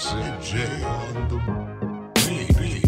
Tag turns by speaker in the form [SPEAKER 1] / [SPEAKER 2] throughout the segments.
[SPEAKER 1] Sid J on the beat.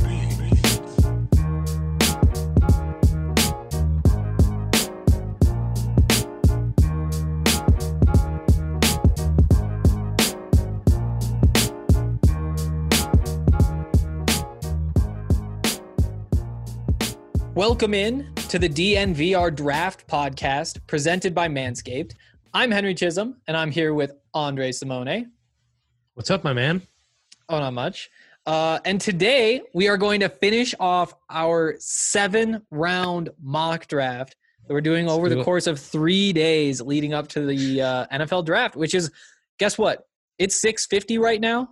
[SPEAKER 2] Welcome in to the DNVR Draft Podcast presented by Manscaped. I'm Henry Chisholm, and I'm here with Andre Simone.
[SPEAKER 3] What's up, my man?
[SPEAKER 2] Oh, not much. And today we are going to finish off our 7-round mock draft that we're doing over the course of 3 days leading up to the NFL draft, which is, guess what? It's 6:50 right now.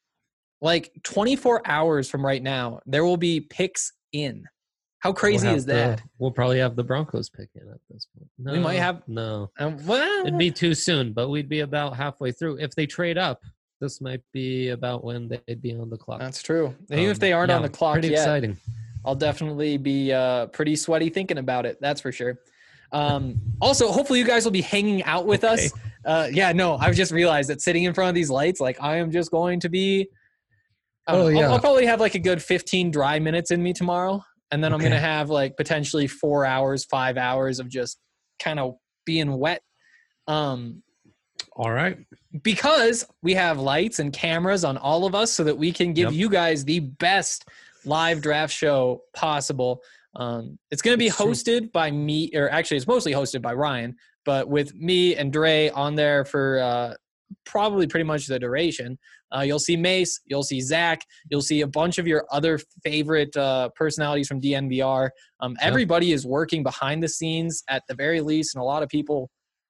[SPEAKER 2] Like 24 hours from right now, there will be picks in. How crazy is that?
[SPEAKER 3] We'll probably have the Broncos pick in at this point. No,
[SPEAKER 2] We might have.
[SPEAKER 3] No.
[SPEAKER 2] Well,
[SPEAKER 3] It'd be too soon, but we'd be about halfway through. If they trade up, this might be about when they'd be on the clock.
[SPEAKER 2] that's true. And even if they aren't on the clock
[SPEAKER 3] pretty
[SPEAKER 2] yet,
[SPEAKER 3] exciting.
[SPEAKER 2] I'll definitely be pretty sweaty thinking about it. That's for sure. Also, hopefully you guys will be hanging out with us. I've just realized that sitting in front of these lights, like I am just going to be, I'll probably have like a good 15 dry minutes in me tomorrow. And then I'm going to have like potentially 4 hours, 5 hours of just kind of being wet.
[SPEAKER 3] All right.
[SPEAKER 2] Because we have lights and cameras on all of us so that we can give you guys the best live draft show possible. It's going to be hosted by me, or actually it's mostly hosted by Ryan, but with me and Dre on there for probably pretty much the duration. You'll see Mace, you'll see Zach, you'll see a bunch of your other favorite personalities from DNVR. Everybody is working behind the scenes at the very least, and a lot of people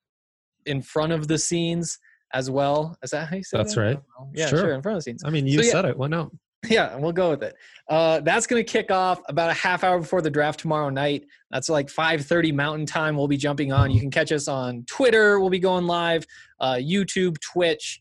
[SPEAKER 2] in front of the scenes as well. Is that how you say
[SPEAKER 3] That's
[SPEAKER 2] that?
[SPEAKER 3] right.
[SPEAKER 2] Yeah, sure, in front of the scenes.
[SPEAKER 3] I mean, you said it. Why not?
[SPEAKER 2] Yeah, we'll go with it. That's going to kick off about a half hour before the draft tomorrow night. That's like 5:30 Mountain Time. We'll be jumping on. You can catch us on Twitter. We'll be going live. YouTube, Twitch.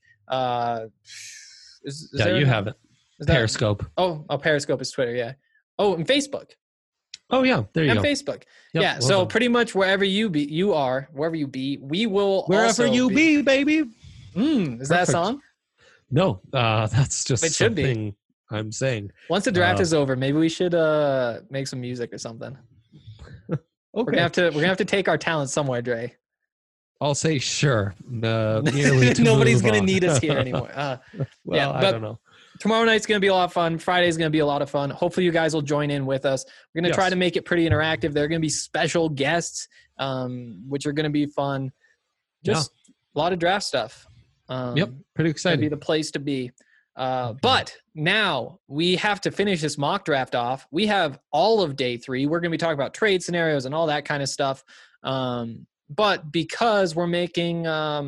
[SPEAKER 3] You have it. Periscope.
[SPEAKER 2] Periscope is Twitter, yeah. Oh, and Facebook.
[SPEAKER 3] Oh, yeah. There you go.
[SPEAKER 2] And Facebook.
[SPEAKER 3] Yep,
[SPEAKER 2] yeah,
[SPEAKER 3] well
[SPEAKER 2] so
[SPEAKER 3] done.
[SPEAKER 2] pretty much wherever you are, wherever you be, we will
[SPEAKER 3] Wherever
[SPEAKER 2] also
[SPEAKER 3] you be, baby.
[SPEAKER 2] Is that a song?
[SPEAKER 3] No, that's just
[SPEAKER 2] It should be.
[SPEAKER 3] something I'm saying.
[SPEAKER 2] Once the draft is over, maybe we should make some music or something.
[SPEAKER 3] Okay.
[SPEAKER 2] We're gonna have to take our talent somewhere, Dre.
[SPEAKER 3] I'll say sure.
[SPEAKER 2] Nobody's gonna need us here anymore.
[SPEAKER 3] I don't know.
[SPEAKER 2] Tomorrow night's gonna be a lot of fun. Friday's gonna be a lot of fun. Hopefully, you guys will join in with us. We're gonna try to make it pretty interactive. There are gonna be special guests, which are gonna be fun. Just a lot of draft stuff.
[SPEAKER 3] Pretty exciting.
[SPEAKER 2] Be the place to be. But now we have to finish this mock draft off. We have all of day 3. We're going to be talking about trade scenarios and all that kind of stuff. But because we're making,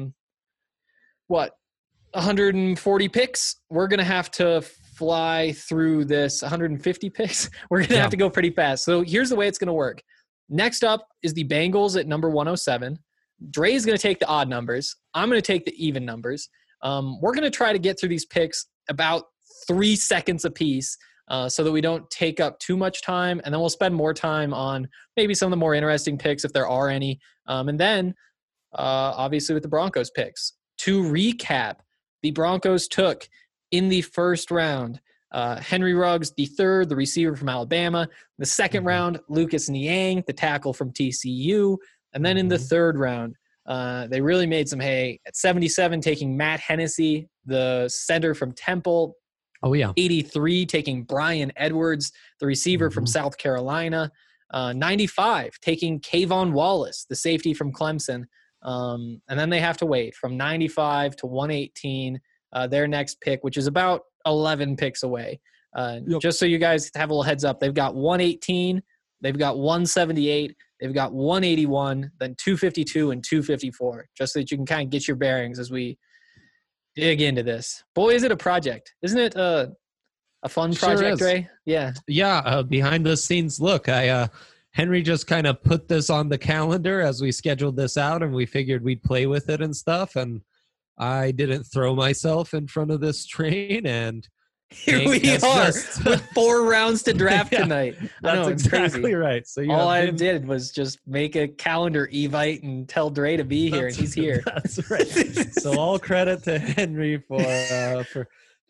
[SPEAKER 2] 140 picks, we're going to have to fly through this 150 picks. We're going to have to go pretty fast. So here's the way it's going to work. Next up is the Bengals at number 107. Dre is going to take the odd numbers. I'm going to take the even numbers. We're going to try to get through these picks about 3 seconds apiece so that we don't take up too much time. And then we'll spend more time on maybe some of the more interesting picks if there are any. And then, obviously, with the Broncos picks. To recap, the Broncos took in the first round Henry Ruggs, the third, the receiver from Alabama. The second round, Lucas Niang, the tackle from TCU. And then in the third round, they really made some hay. At 77, taking Matt Hennessy, the center from Temple. 83, taking Brian Edwards, the receiver from South Carolina. 95, taking Kayvon Wallace, the safety from Clemson. And then they have to wait from 95 to 118, their next pick, which is about 11 picks away. Just so you guys have a little heads up, they've got 118, they've got 178, they've got 181, then 252 and 254, just so that you can kind of get your bearings as we dig into this. Boy, is it a project. Isn't it a fun project, Ray? Yeah.
[SPEAKER 3] Yeah, behind the scenes look. Henry just kind of put this on the calendar as we scheduled this out, and we figured we'd play with it and stuff, and I didn't throw myself in front of this train, and
[SPEAKER 2] here we are with 4 rounds to draft tonight. I know,
[SPEAKER 3] That's
[SPEAKER 2] it's
[SPEAKER 3] exactly
[SPEAKER 2] crazy.
[SPEAKER 3] right. So
[SPEAKER 2] all I did was just make a calendar evite and tell Dre to be here, and he's here.
[SPEAKER 3] That's right. So all credit to Henry for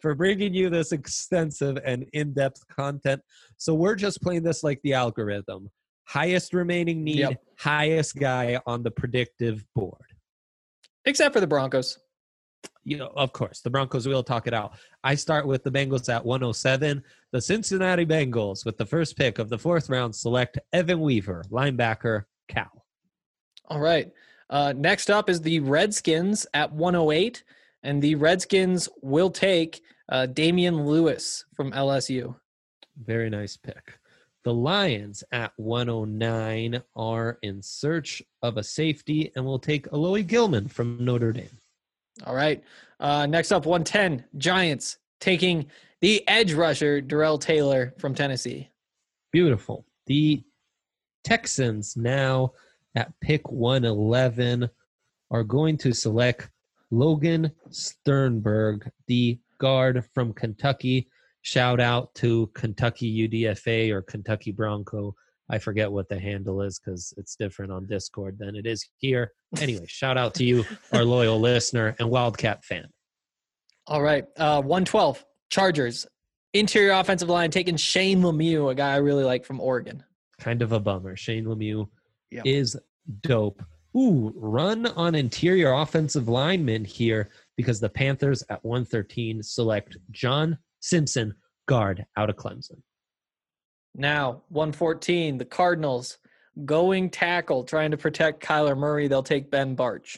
[SPEAKER 3] for bringing you this extensive and in-depth content. So we're just playing this like the algorithm. Highest remaining need,
[SPEAKER 2] Yep.
[SPEAKER 3] highest guy on the predictive board.
[SPEAKER 2] Except for the Broncos.
[SPEAKER 3] Of course, the Broncos will talk it out. I start with the Bengals at 107. The Cincinnati Bengals, with the first pick of the 4th round, select Evan Weaver, linebacker, Cal.
[SPEAKER 2] All right. Next up is the Redskins at 108. And the Redskins will take Damian Lewis from LSU.
[SPEAKER 3] Very nice pick. The Lions at 109 are in search of a safety and will take Aloy Gilman from Notre Dame.
[SPEAKER 2] All right. Next up, 110, Giants taking the edge rusher, Darrell Taylor from Tennessee.
[SPEAKER 3] Beautiful. The Texans now at pick 111 are going to select Logan Sternberg, the guard from Kentucky. Shout out to Kentucky UDFA or Kentucky Bronco. I forget what the handle is because it's different on Discord than it is here. Anyway, shout out to you, our loyal listener and Wildcat fan.
[SPEAKER 2] All right. 112, Chargers. Interior offensive line taking Shane Lemieux, a guy I really like from Oregon.
[SPEAKER 3] Kind of a bummer. Shane Lemieux
[SPEAKER 2] Yep.
[SPEAKER 3] is dope. Ooh, run on interior offensive linemen here because the Panthers at 113 select John Simpson, guard out of Clemson.
[SPEAKER 2] Now, 114, the Cardinals going tackle, trying to protect Kyler Murray. They'll take Ben Barch.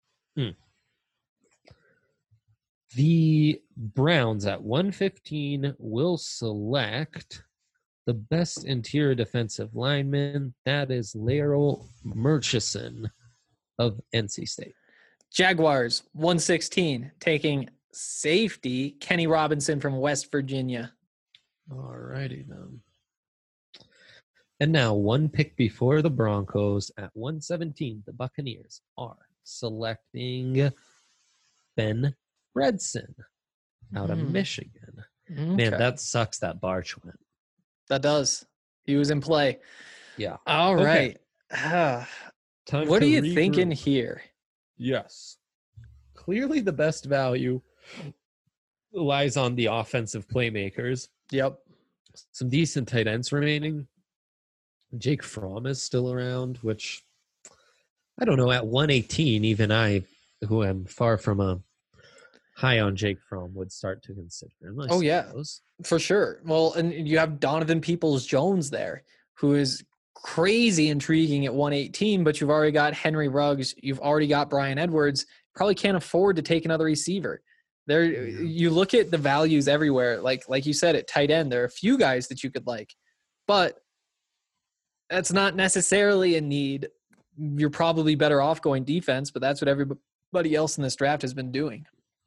[SPEAKER 3] The Browns at 115 will select the best interior defensive lineman. That is Laryl Murchison of NC State.
[SPEAKER 2] Jaguars, 116, taking safety Kenny Robinson from West Virginia.
[SPEAKER 3] All righty then. And now, one pick before the Broncos at 117, the Buccaneers are selecting Ben Bredson out of Michigan. Man, that sucks that Barch went.
[SPEAKER 2] That does. He was in play.
[SPEAKER 3] Yeah.
[SPEAKER 2] All right.
[SPEAKER 3] Time
[SPEAKER 2] What
[SPEAKER 3] to
[SPEAKER 2] are you
[SPEAKER 3] regroup.
[SPEAKER 2] thinking here?
[SPEAKER 3] Yes. Clearly the best value lies on the offensive playmakers.
[SPEAKER 2] Yep.
[SPEAKER 3] Some decent tight ends remaining. Jake Fromm is still around, which I don't know. At 118, even I, who am far from a high on Jake Fromm, would start to consider him. I suppose.
[SPEAKER 2] For sure. Well, and you have Donovan Peoples-Jones there, who is crazy intriguing at 118, but you've already got Henry Ruggs. You've already got Brian Edwards. Probably can't afford to take another receiver. There, you look at the values everywhere. Like you said, at tight end, there are a few guys that you could like, but that's not necessarily a need. You're probably better off going defense, but that's what everybody else in this draft has been doing.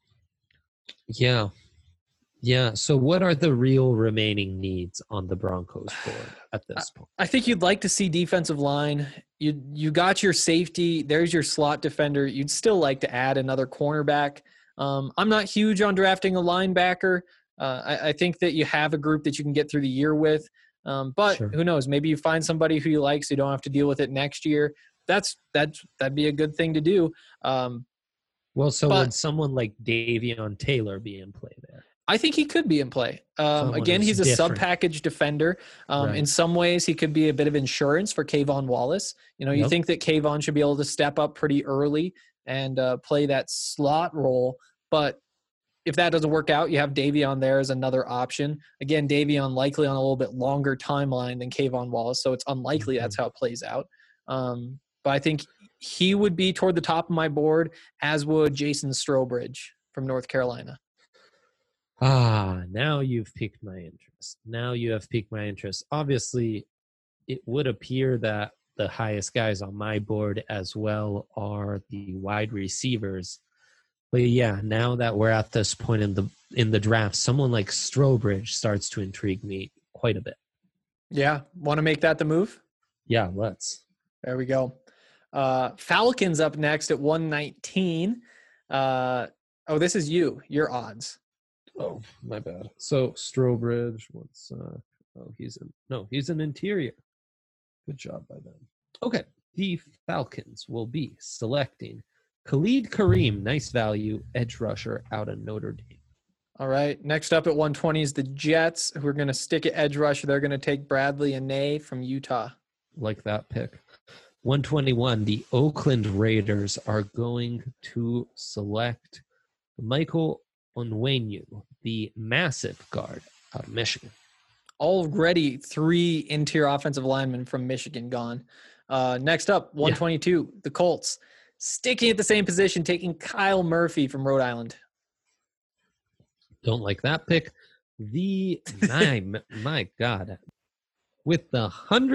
[SPEAKER 3] Yeah. Yeah. So what are the real remaining needs on the Broncos board at this point?
[SPEAKER 2] I think you'd like to see defensive line. You got your safety. There's your slot defender. You'd still like to add another cornerback. I'm not huge on drafting a linebacker. I think that you have a group that you can get through the year with. But
[SPEAKER 3] Sure.
[SPEAKER 2] Who knows? Maybe you find somebody who you like so you don't have to deal with it next year. That'd be a good thing to do.
[SPEAKER 3] Would
[SPEAKER 2] but-
[SPEAKER 3] someone like Davion Taylor be in play there?
[SPEAKER 2] I think he could be in play. Again,
[SPEAKER 3] who's
[SPEAKER 2] he's a
[SPEAKER 3] different.
[SPEAKER 2] sub-package defender.
[SPEAKER 3] Right.
[SPEAKER 2] In some ways, he could be a bit of insurance for Kayvon Wallace. You
[SPEAKER 3] Yep.
[SPEAKER 2] think that Kayvon should be able to step up pretty early and play that slot role. But if that doesn't work out, you have Davion there as another option. Again, Davion likely on a little bit longer timeline than Kayvon Wallace, so it's unlikely that's how it plays out. But I think he would be toward the top of my board, as would Jason Strowbridge from North Carolina.
[SPEAKER 3] Now you've piqued my interest. Obviously, it would appear that the highest guys on my board as well are the wide receivers. But yeah, now that we're at this point in the draft, someone like Strowbridge starts to intrigue me quite a bit.
[SPEAKER 2] Yeah, want to make that the move?
[SPEAKER 3] Yeah, let's.
[SPEAKER 2] There we go. Falcons up next at 119. This is you. Your odds.
[SPEAKER 3] Oh, my bad. So Strowbridge, he's an interior. Good job by them. Okay, the Falcons will be selecting Khalid Kareem, nice value, edge rusher out of Notre Dame.
[SPEAKER 2] All right. Next up at 120 is the Jets, who are going to stick at edge rush. They're going to take Bradley Anae from Utah.
[SPEAKER 3] Like that pick. 121, the Oakland Raiders are going to select Michael Onwenu, the massive guard out of Michigan.
[SPEAKER 2] Already 3 interior offensive linemen from Michigan gone. Next up, 122, the Colts, sticking at the same position, taking Kyle Murphy from Rhode Island.
[SPEAKER 3] Don't like that pick. My God. With the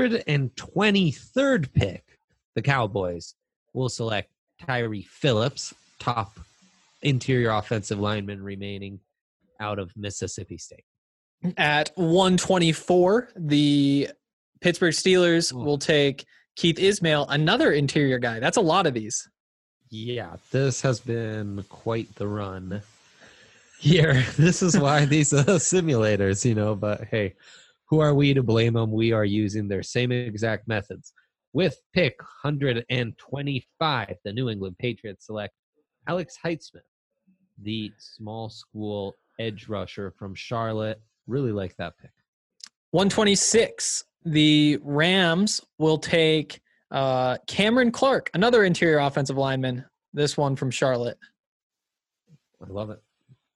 [SPEAKER 3] 123rd pick, the Cowboys will select Tyree Phillips, top interior offensive lineman remaining out of Mississippi State.
[SPEAKER 2] At 124, the Pittsburgh Steelers will take Keith Ismail, another interior guy. That's a lot of these.
[SPEAKER 3] Yeah, this has been quite the run here. This is why these simulators, but hey, who are we to blame them? We are using their same exact methods. With pick 125, the New England Patriots select Alex Heitzman, the small school edge rusher from Charlotte. Really like that pick.
[SPEAKER 2] 126, the Rams will take Cameron Clark, another interior offensive lineman, this one from Charlotte.
[SPEAKER 3] I love it.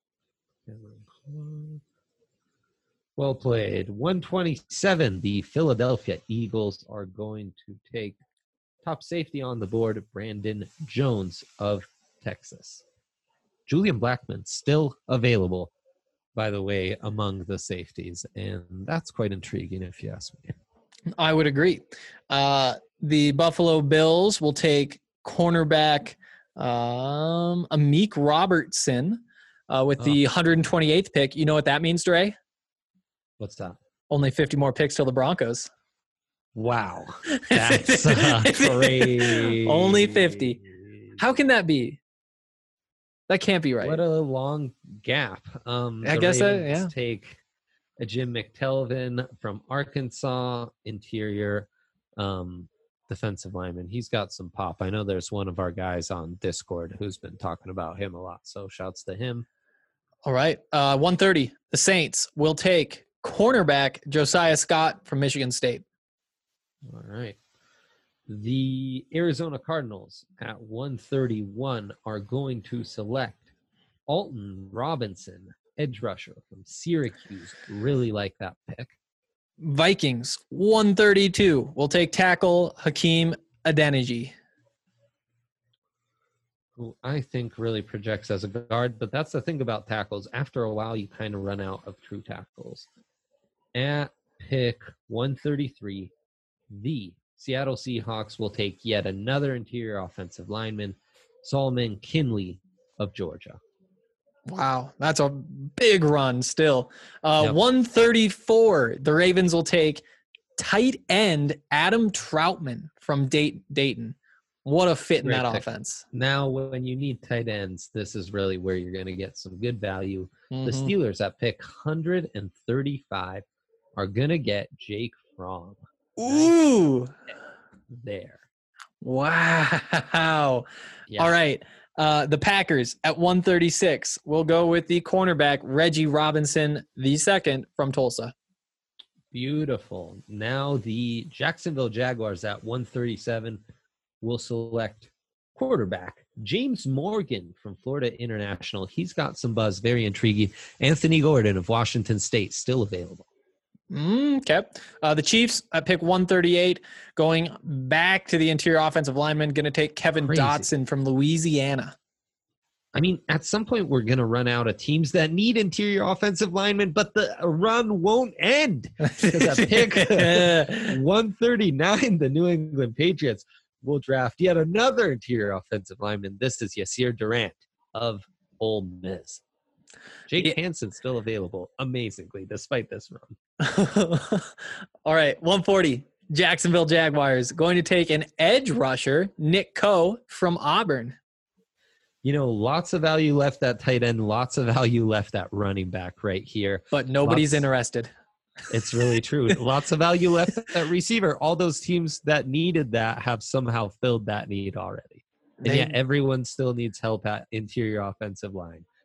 [SPEAKER 3] Well played. 127, the Philadelphia Eagles are going to take top safety on the board, Brandon Jones of Texas. Julian Blackman still available, by the way, among the safeties, and that's quite intriguing if you ask me.
[SPEAKER 2] I would agree. The Buffalo Bills will take cornerback Amik Robertson with the 128th pick. You know what that means, Dre?
[SPEAKER 3] What's that?
[SPEAKER 2] Only 50 more picks till the Broncos.
[SPEAKER 3] Wow. That's crazy.
[SPEAKER 2] Only 50. How can that be? That can't be right.
[SPEAKER 3] What a long gap.
[SPEAKER 2] I guess that,
[SPEAKER 3] take a Jim McTelvin from Arkansas, interior defensive lineman. He's got some pop. I know there's one of our guys on Discord who's been talking about him a lot, so shouts to him.
[SPEAKER 2] All right. 130, the Saints will take cornerback Josiah Scott from Michigan State.
[SPEAKER 3] All right. The Arizona Cardinals at 131 are going to select Alton Robinson, edge rusher from Syracuse. Really like that pick.
[SPEAKER 2] Vikings, 132, will take tackle Hakeem Adeniji,
[SPEAKER 3] who I think really projects as a guard, but that's the thing about tackles. After a while, you kind of run out of true tackles. At pick 133, the Seattle Seahawks will take yet another interior offensive lineman, Solomon Kinley of Georgia.
[SPEAKER 2] Wow, that's a big run still. 134, the Ravens will take tight end Adam Troutman from Dayton. What a fit in that offense.
[SPEAKER 3] Now, when you need tight ends, this is really where you're going to get some good value. Mm-hmm. The Steelers at pick 135 are going to get Jake Fromm.
[SPEAKER 2] Ooh.
[SPEAKER 3] There.
[SPEAKER 2] Wow. Yeah. All right. The Packers at 136 will go with the cornerback Reggie Robinson, the second from Tulsa.
[SPEAKER 3] Beautiful. Now the Jacksonville Jaguars at 137 will select quarterback James Morgan from Florida International. He's got some buzz, very intriguing. Anthony Gordon of Washington State still available.
[SPEAKER 2] Okay. The Chiefs at pick 138, going back to the interior offensive lineman, going to take Kevin Dotson from Louisiana.
[SPEAKER 3] I mean, at some point we're going to run out of teams that need interior offensive linemen, but the run won't end. Because at pick 139, the New England Patriots will draft yet another interior offensive lineman. This is Yasir Durant of Ole Miss. Jake Hansen still available, amazingly, despite this run.
[SPEAKER 2] All right, 140. Jacksonville Jaguars going to take an edge rusher, Nick Coe from Auburn.
[SPEAKER 3] Lots of value left at tight end, lots of value left at running back right here.
[SPEAKER 2] But nobody's interested.
[SPEAKER 3] It's really true. Lots of value left at receiver. All those teams that needed that have somehow filled that need already. And yet everyone still needs help at interior offensive line.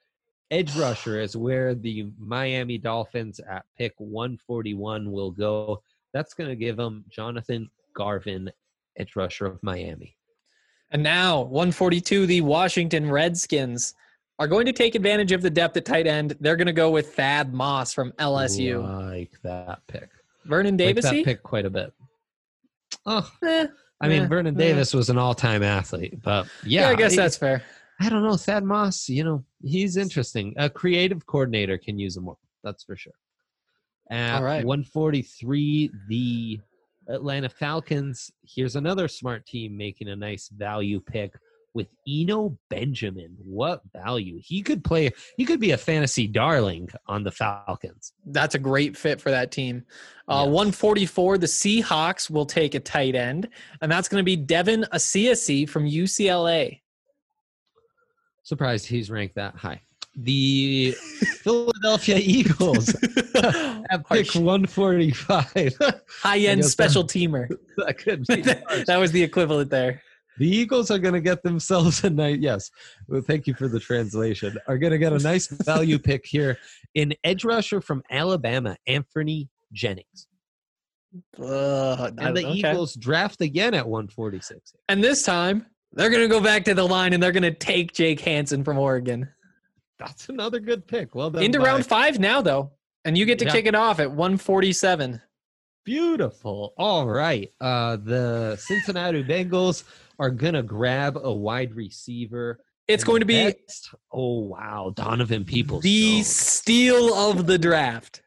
[SPEAKER 3] Edge rusher is where the Miami Dolphins at pick 141 will go. That's going to give them Jonathan Garvin, edge rusher of Miami.
[SPEAKER 2] And now, 142, the Washington Redskins are going to take advantage of the depth at tight end. They're going to go with Thad Moss from LSU.
[SPEAKER 3] Like that pick.
[SPEAKER 2] Vernon
[SPEAKER 3] Like
[SPEAKER 2] Davis?
[SPEAKER 3] that pick quite a bit. Oh, I mean, Vernon Davis was an all-time athlete, but yeah,
[SPEAKER 2] I guess that's fair.
[SPEAKER 3] I don't know. Thad Moss, he's interesting. A creative coordinator can use him more. That's for sure. At
[SPEAKER 2] All right.
[SPEAKER 3] 143, the Atlanta Falcons. Here's another smart team making a nice value pick with Eno Benjamin. What value? He could be a fantasy darling on the Falcons.
[SPEAKER 2] That's a great fit for that team.
[SPEAKER 3] Yes.
[SPEAKER 2] 144, the Seahawks will take a tight end, and that's going to be Devin Asiasi from UCLA.
[SPEAKER 3] Surprised he's ranked that high. The Philadelphia Eagles at pick 145.
[SPEAKER 2] High-end special teamer.
[SPEAKER 3] That could be
[SPEAKER 2] That was the equivalent there.
[SPEAKER 3] The Eagles are going to get themselves a nice, yes, well, thank you for the translation, are going to get a nice value pick here in edge rusher from Alabama, Anthony Jennings. And the Eagles draft again at 146.
[SPEAKER 2] And this time, they're going to go back to the line and they're going to take Jake Hansen from Oregon.
[SPEAKER 3] That's another good pick. Well done.
[SPEAKER 2] Into round 5 now, though. And you get to kick it off at 147.
[SPEAKER 3] Beautiful. All right. The Cincinnati Bengals are going to grab a wide receiver.
[SPEAKER 2] It's going to be
[SPEAKER 3] Donovan Peoples.
[SPEAKER 2] The steal of the draft.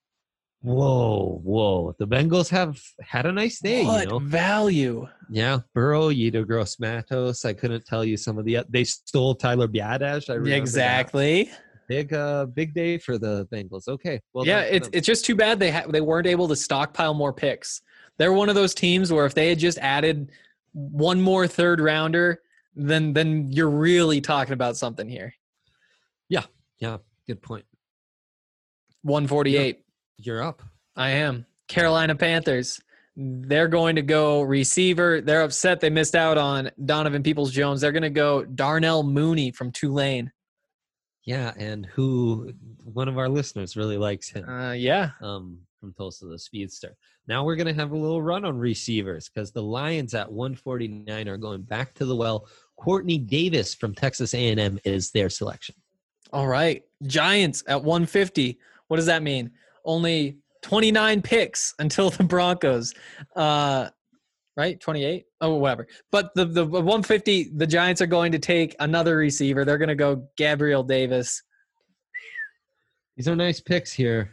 [SPEAKER 3] Whoa. The Bengals have had a nice day.
[SPEAKER 2] What value?
[SPEAKER 3] Yeah. Burrow, Yetur Gross-Matos. I couldn't tell you some of they stole Tyler Biadasz.
[SPEAKER 2] Exactly.
[SPEAKER 3] Big day for the Bengals. Okay. Well,
[SPEAKER 2] yeah, it's just too bad they weren't able to stockpile more picks. They're one of those teams where if they had just added one more third rounder, then you're really talking about something here.
[SPEAKER 3] Yeah. Good point.
[SPEAKER 2] 148.
[SPEAKER 3] You're up.
[SPEAKER 2] I am. Carolina Panthers. They're going to go receiver. They're upset they missed out on Donovan Peoples-Jones. They're going to go Darnell Mooney from Tulane.
[SPEAKER 3] Yeah, and who one of our listeners really likes him. From Tulsa, the speedster. Now we're going to have a little run on receivers because the Lions at 149 are going back to the well. Courtney Davis from Texas A&M is their selection.
[SPEAKER 2] All right. Giants at 150. What does that mean? Only 29 picks until the Broncos. Right? 28? Oh, whatever. But the 150, the Giants are going to take another receiver. They're going to go Gabriel Davis.
[SPEAKER 3] These are nice picks here.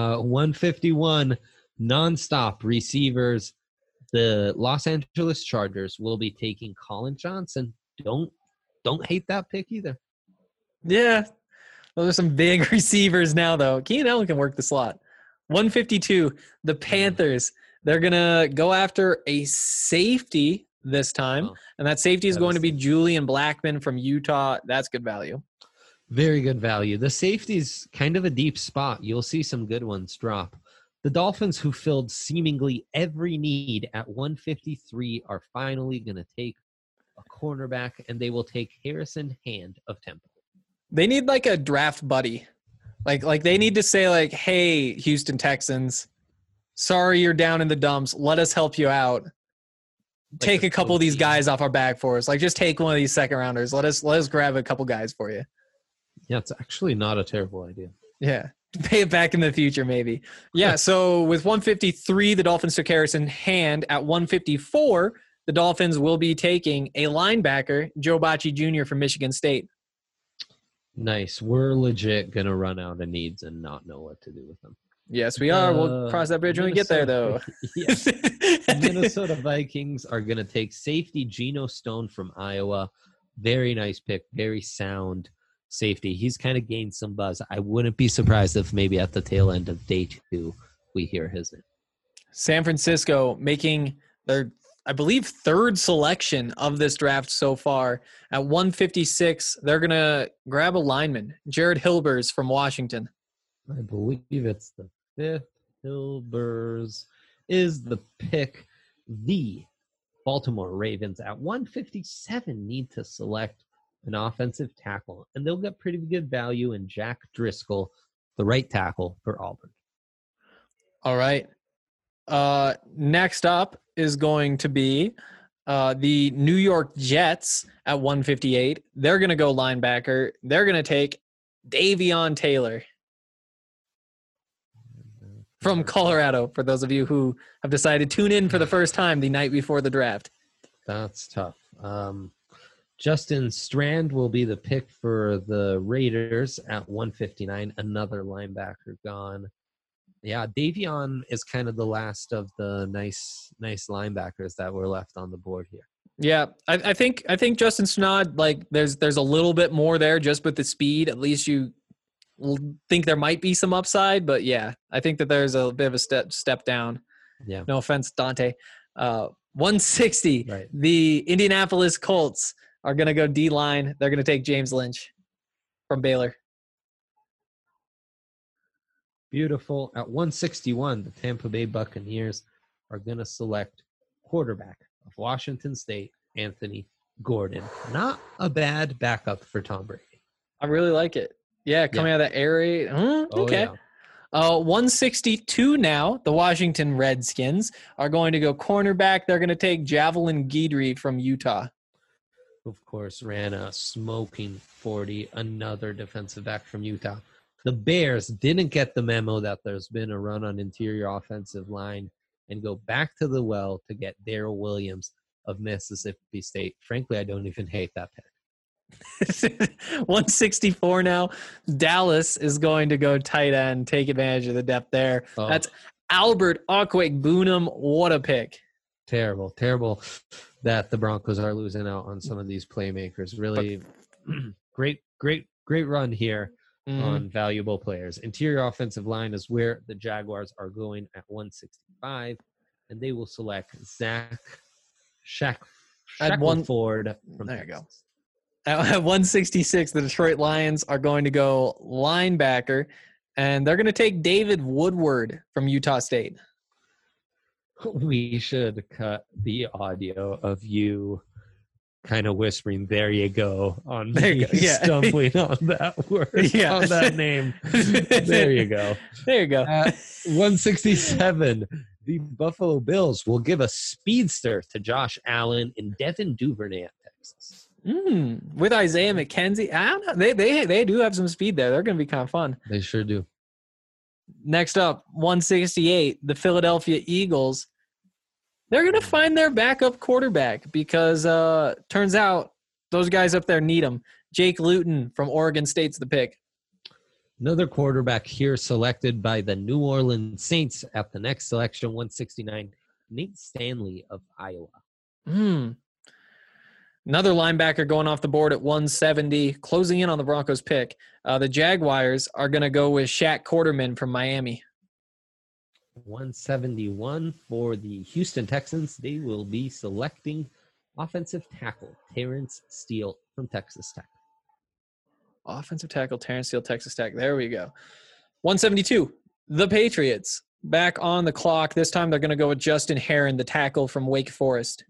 [SPEAKER 3] 151 nonstop receivers. The Los Angeles Chargers will be taking Colin Johnson. Don't hate that pick either.
[SPEAKER 2] Yeah. Those are some big receivers now, though. Keenan Allen can work the slot. 152, the Panthers. They're going to go after a safety this time, and that safety is going to be Julian Blackmon from Utah. That's good value.
[SPEAKER 3] Very good value. The safety's kind of a deep spot. You'll see some good ones drop. The Dolphins, who filled seemingly every need at 153, are finally going to take a cornerback, and they will take Harrison Hand of Temple.
[SPEAKER 2] They need like a draft buddy. Like they need to say like, hey, Houston Texans, sorry you're down in the dumps. Let us help you out. Take a couple of these guys off our back for us. Like just take one of these second rounders. Let us grab a couple guys for you.
[SPEAKER 3] Yeah, it's actually not a terrible idea.
[SPEAKER 2] Yeah. Pay it back in the future, maybe. Yeah, so with 153, the Dolphins took Harrison Hand. At 154, the Dolphins will be taking a linebacker, Joe Bacci Jr. from Michigan State.
[SPEAKER 3] Nice. We're legit going to run out of needs and not know what to do with them.
[SPEAKER 2] Yes, we are. We'll cross that bridge when we get there, though.
[SPEAKER 3] Yes. Minnesota Vikings are going to take safety Geno Stone from Iowa. Very nice pick. Very sound safety. He's kind of gained some buzz. I wouldn't be surprised if maybe at the tail end of day 2 we hear his name.
[SPEAKER 2] San Francisco making their, I believe, third selection of this draft so far. At 156, they're going to grab a lineman, Jared Hilbers from Washington.
[SPEAKER 3] I believe it's the 5th. Hilbers is the pick. The Baltimore Ravens at 157 need to select an offensive tackle, and they'll get pretty good value in Jack Driscoll, the right tackle for Auburn.
[SPEAKER 2] All right. Next up is going to be the New York Jets at 158. They're going to go linebacker. They're going to take Davion Taylor from Colorado, for those of you who have decided to tune in for the first time the night before the draft.
[SPEAKER 3] That's tough. Justin Strand will be the pick for the Raiders at 159. Another linebacker gone. Yeah, Davion is kind of the last of the nice linebackers that were left on the board here.
[SPEAKER 2] Yeah, I think Justin Strand, like there's a little bit more there just with the speed. At least you think there might be some upside, but yeah, I think that there's a bit of a step down.
[SPEAKER 3] Yeah.
[SPEAKER 2] No offense, Dante. 160.
[SPEAKER 3] Right.
[SPEAKER 2] The Indianapolis Colts are going to go D-line. They're going to take James Lynch from Baylor.
[SPEAKER 3] Beautiful. At 161, the Tampa Bay Buccaneers are going to select quarterback of Washington State, Anthony Gordon. Not a bad backup for Tom Brady.
[SPEAKER 2] I really like it. Yeah, coming out of that air raid. Okay.
[SPEAKER 3] Yeah.
[SPEAKER 2] 162 now, the Washington Redskins are going to go cornerback. They're going to take Javelin Guidry from Utah.
[SPEAKER 3] Of course, ran a smoking 40, another defensive back from Utah. The Bears didn't get the memo that there's been a run on interior offensive line and go back to the well to get Darrell Williams of Mississippi State. Frankly, I don't even hate that pick.
[SPEAKER 2] 164 now. Dallas is going to go tight end, take advantage of the depth there.
[SPEAKER 3] Oh.
[SPEAKER 2] That's Albert Okwuegbunam. What a pick.
[SPEAKER 3] Terrible that the Broncos are losing out on some of these playmakers. Really great run here on valuable players. Interior offensive line is where the Jaguars are going at 165, and they will select Zach Shackelford from
[SPEAKER 2] there you
[SPEAKER 3] Texas.
[SPEAKER 2] go. At 166, the Detroit Lions are going to go linebacker, and they're going to take David Woodward from Utah State.
[SPEAKER 3] We should cut the audio of you kind of whispering, "There you go," on me stumbling on that word, on that name. There you go.
[SPEAKER 2] There you go.
[SPEAKER 3] At 167, the Buffalo Bills will give a speedster to Josh Allen in Devin Duvernay at Texas.
[SPEAKER 2] With Isaiah McKenzie, I don't know. They do have some speed there. They're going to be kind of fun.
[SPEAKER 3] They sure do.
[SPEAKER 2] Next up, 168, the Philadelphia Eagles. They're going to find their backup quarterback because turns out those guys up there need them. Jake Luton from Oregon State's the pick.
[SPEAKER 3] Another quarterback here selected by the New Orleans Saints at the next selection, 169, Nate Stanley of Iowa.
[SPEAKER 2] Another linebacker going off the board at 170, closing in on the Broncos pick. The Jaguars are going to go with Shaq Quarterman from Miami.
[SPEAKER 3] 171 for the Houston Texans. They will be selecting offensive tackle Terrence Steele from Texas Tech.
[SPEAKER 2] Offensive tackle Terrence Steele, Texas Tech. There we go. 172, the Patriots. Back on the clock. This time they're going to go with Justin Herron, the tackle from Wake Forest.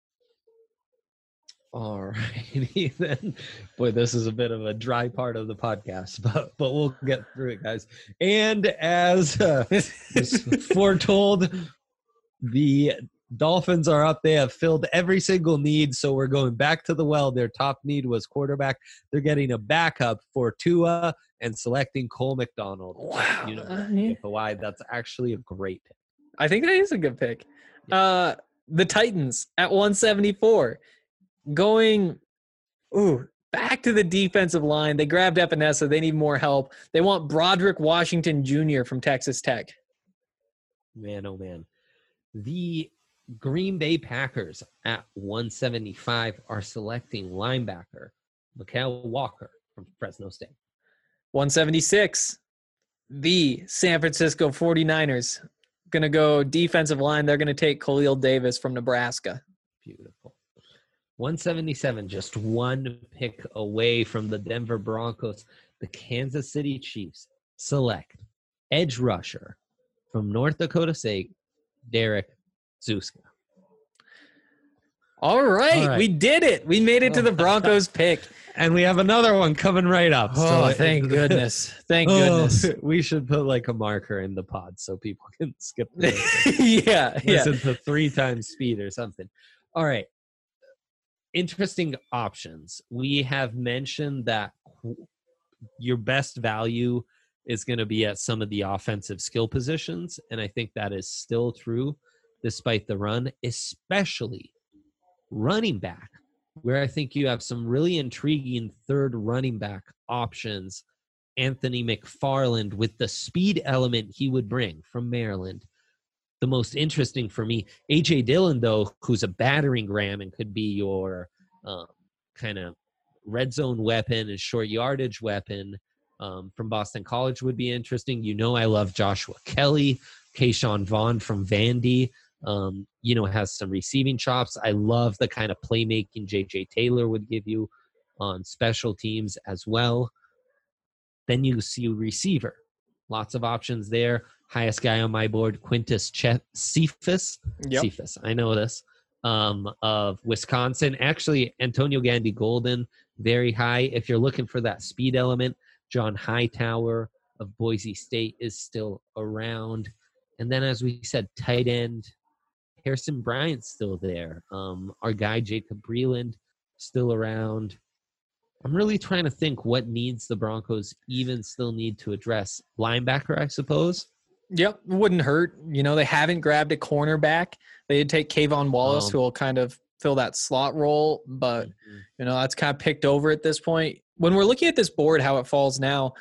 [SPEAKER 3] All righty then. Boy, this is a bit of a dry part of the podcast, but we'll get through it, guys. And as foretold, the Dolphins are up. They have filled every single need, so we're going back to the well. Their top need was quarterback. They're getting a backup for Tua and selecting Cole McDonald.
[SPEAKER 2] Wow.
[SPEAKER 3] Why? That's actually a great pick.
[SPEAKER 2] I think that is a good pick. The Titans at 174. Going back to the defensive line. They grabbed Epinesa. They need more help. They want Broderick Washington Jr. from Texas Tech.
[SPEAKER 3] Man, oh man. The Green Bay Packers at 175 are selecting linebacker Mikael Walker from Fresno State.
[SPEAKER 2] 176, the San Francisco 49ers. Going to go defensive line. They're going to take Khalil Davis from Nebraska.
[SPEAKER 3] Beautiful. 177, just one pick away from the Denver Broncos. The Kansas City Chiefs select edge rusher from North Dakota State, Derek Zuska.
[SPEAKER 2] All right,
[SPEAKER 3] All right.
[SPEAKER 2] we did it. We made it to the Broncos pick.
[SPEAKER 3] And we have another one coming right up.
[SPEAKER 2] Oh, thank goodness. Thank goodness.
[SPEAKER 3] We should put like a marker in the pod so people can skip this.
[SPEAKER 2] yeah.
[SPEAKER 3] Listen to 3 times speed or something. All right. Interesting options. We have mentioned that your best value is going to be at some of the offensive skill positions. And I think that is still true despite the run, especially running back, where I think you have some really intriguing third running back options. Anthony McFarland with the speed element he would bring from Maryland. The most interesting for me, A.J. Dillon, though, who's a battering ram and could be your kind of red zone weapon and short yardage weapon from Boston College would be interesting. You know I love Joshua Kelly, Keyshawn Vaughn from Vandy. Has some receiving chops. I love the kind of playmaking J.J. Taylor would give you on special teams as well. Then you see receiver. Lots of options there. Highest guy on my board, Quintus Cephas.
[SPEAKER 2] Yep.
[SPEAKER 3] Cephas, I know this, of Wisconsin. Actually, Antonio Gandy Golden, very high. If you're looking for that speed element, John Hightower of Boise State is still around. And then, as we said, tight end, Harrison Bryant's still there. Our guy, Jacob Breland, still around. I'm really trying to think what needs the Broncos even still need to address. Linebacker, I suppose.
[SPEAKER 2] Yep, wouldn't hurt. They haven't grabbed a cornerback. They did take Kayvon Wallace, who will kind of fill that slot role, but that's kind of picked over at this point. When we're looking at this board, how it falls now,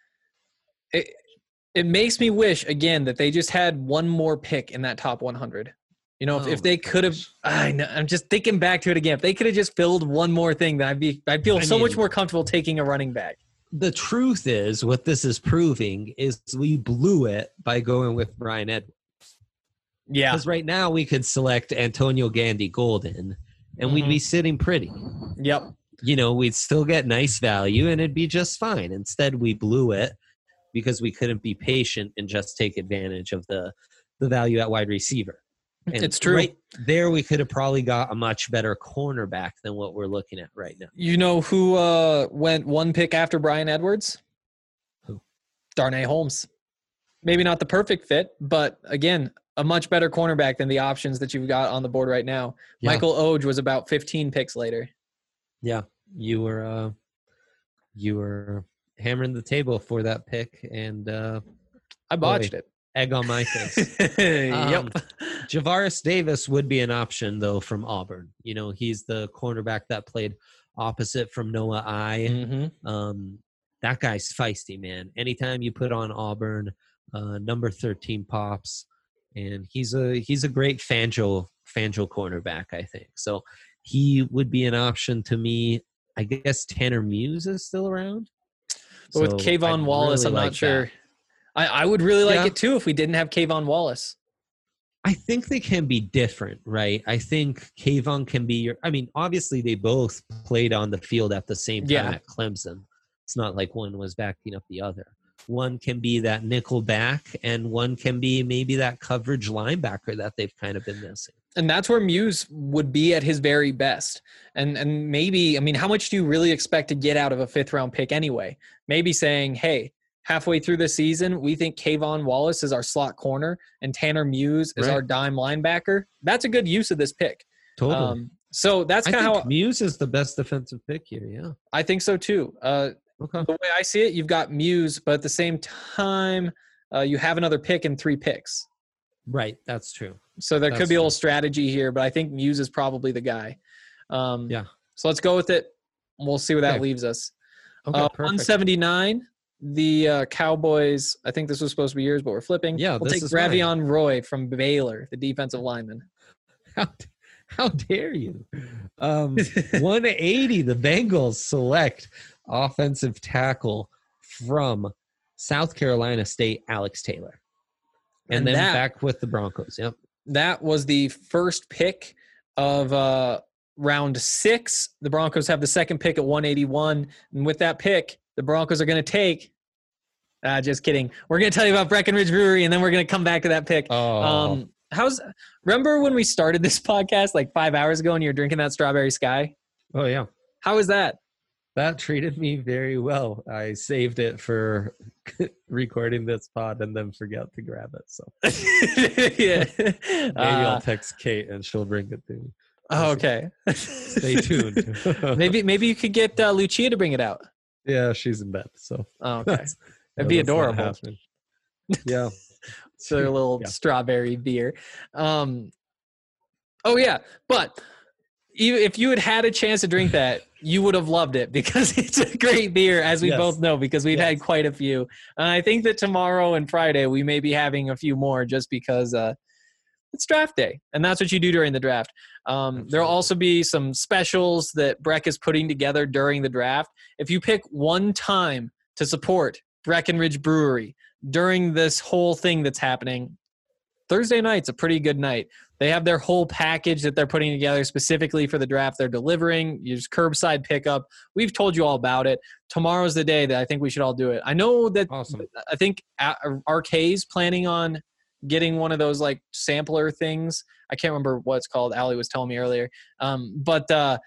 [SPEAKER 2] it makes me wish again that they just had one more pick in that top 100. If they could have, I know, I'm just thinking back to it again. If they could have just filled one more thing, then I'd feel much more comfortable taking a running back.
[SPEAKER 3] The truth is, what this is proving is we blew it by going with Brian Edwards.
[SPEAKER 2] Yeah.
[SPEAKER 3] Because right now we could select Antonio Gandy Golden, and we'd be sitting pretty.
[SPEAKER 2] Yep.
[SPEAKER 3] We'd still get nice value, and it'd be just fine. Instead, we blew it because we couldn't be patient and just take advantage of the value at wide receiver. And
[SPEAKER 2] it's true.
[SPEAKER 3] Right there, we could have probably got a much better cornerback than what we're looking at right now.
[SPEAKER 2] You know who went one pick after Brian Edwards?
[SPEAKER 3] Who?
[SPEAKER 2] Darnay Holmes. Maybe not the perfect fit, but again, a much better cornerback than the options that you've got on the board right now. Yeah. Michael Oge was about 15 picks later.
[SPEAKER 3] Yeah, you were hammering the table for that pick, and
[SPEAKER 2] I botched it.
[SPEAKER 3] Egg on my face.
[SPEAKER 2] Yep.
[SPEAKER 3] Javaris Davis would be an option, though, from Auburn. He's the cornerback that played opposite from Noah I.
[SPEAKER 2] Mm-hmm.
[SPEAKER 3] That guy's feisty, man. Anytime you put on Auburn, number 13 pops, and he's a great Fangio cornerback, I think. So he would be an option to me. I guess Tanner Muse is still around.
[SPEAKER 2] But with Kayvon Wallace, I'm not sure. I would really like it too if we didn't have Kayvon Wallace.
[SPEAKER 3] I think they can be different, right? I think Kayvon can be obviously they both played on the field at the same time at Clemson. It's not like one was backing up the other. One can be that nickel back, and one can be maybe that coverage linebacker that they've kind of been missing.
[SPEAKER 2] And that's where Muse would be at his very best. And maybe, how much do you really expect to get out of a 5th-round pick anyway? Maybe saying, hey, halfway through the season, we think Kayvon Wallace is our slot corner and Tanner Muse is our dime linebacker. That's a good use of this pick.
[SPEAKER 3] Totally.
[SPEAKER 2] So that's kind of how
[SPEAKER 3] Muse is the best defensive pick here. Yeah,
[SPEAKER 2] I think so too. Okay. The way I see it, you've got Muse, but at the same time, you have another pick and 3 picks.
[SPEAKER 3] Right. That's true.
[SPEAKER 2] So there could be a little strategy here, but I think Muse is probably the guy. So let's go with it. We'll see where that leaves us.
[SPEAKER 3] Okay,
[SPEAKER 2] 179. The Cowboys, I think this was supposed to be yours, but we're flipping.
[SPEAKER 3] Yeah,
[SPEAKER 2] we'll take Ravion Roy from Baylor, the defensive lineman.
[SPEAKER 3] How dare you? 180, the Bengals select offensive tackle from South Carolina State, Alex Taylor. And then back with the Broncos. Yep.
[SPEAKER 2] That was the first pick of round 6. The Broncos have the second pick at 181. And with that pick, the Broncos are going to take just kidding. We're going to tell you about Breckenridge Brewery, and then we're going to come back to that pick. Remember when we started this podcast like 5 hours ago and you were drinking that Strawberry Sky?
[SPEAKER 3] Oh yeah.
[SPEAKER 2] How was that?
[SPEAKER 3] That treated me very well. I saved it for recording this pod and then forgot to grab it. So
[SPEAKER 2] Yeah.
[SPEAKER 3] maybe I'll text Kate and she'll bring it to me.
[SPEAKER 2] Oh, okay.
[SPEAKER 3] Stay tuned.
[SPEAKER 2] Maybe you could get Lucia to bring it out.
[SPEAKER 3] Yeah, she's in bed. So
[SPEAKER 2] Oh, okay. That'd be
[SPEAKER 3] that's not
[SPEAKER 2] adorable.
[SPEAKER 3] happening. Yeah.
[SPEAKER 2] So a little
[SPEAKER 3] Yeah.
[SPEAKER 2] strawberry beer. Oh yeah, but if you had had a chance to drink that, you would have loved it because it's a great beer, as we
[SPEAKER 3] Yes.
[SPEAKER 2] both know, because we've had quite a few. And I think that tomorrow and Friday we may be having a few more just because it's draft day, and that's what you do during the draft. There'll also be some specials that Breck is putting together during the draft. If you pick one time to support Breckenridge Brewery during this whole thing that's happening, Thursday night's a pretty good night. They have their whole package that they're putting together specifically for the draft. They're delivering. Use curbside pickup. We've told you all about it. Tomorrow's the day that I think we should all do it. I know that
[SPEAKER 3] Awesome.
[SPEAKER 2] I think RK's planning on getting one of those like sampler things. I can't remember what it's called. Allie was telling me earlier. But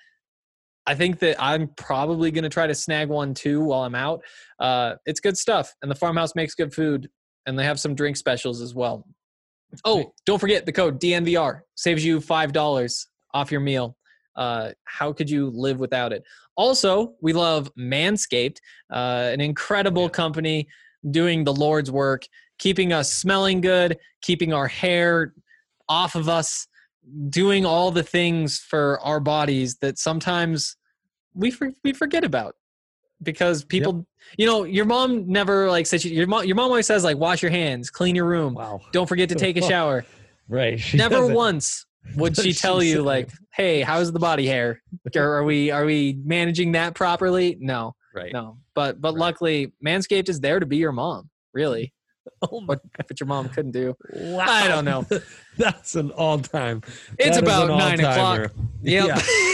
[SPEAKER 2] I think that I'm probably going to try to snag one too while I'm out. It's good stuff. And the farmhouse makes good food. And they have some drink specials as well. Oh, don't forget the code DNVR saves you $5 off your meal. How could you live without it? Also, we love Manscaped, an incredible company doing the Lord's work, keeping us smelling good, keeping our hair off of us, doing all the things for our bodies that sometimes we forget about. Because people, your mom never like says your mom always says like wash your hands, clean your room,
[SPEAKER 3] Wow.
[SPEAKER 2] don't forget to take a shower.
[SPEAKER 3] Right. She
[SPEAKER 2] Never
[SPEAKER 3] doesn't-
[SPEAKER 2] once would she tell you like, hey, how's the body hair? Are we managing that properly? No,
[SPEAKER 3] Right.
[SPEAKER 2] no. But luckily, Manscaped is there to be your mom. Really,
[SPEAKER 3] Oh my
[SPEAKER 2] what your mom couldn't do.
[SPEAKER 3] Wow.
[SPEAKER 2] I don't know.
[SPEAKER 3] That's an all-time.
[SPEAKER 2] It's
[SPEAKER 3] that is
[SPEAKER 2] about
[SPEAKER 3] an
[SPEAKER 2] 9 o'clock.
[SPEAKER 3] all-timer.
[SPEAKER 2] Yep.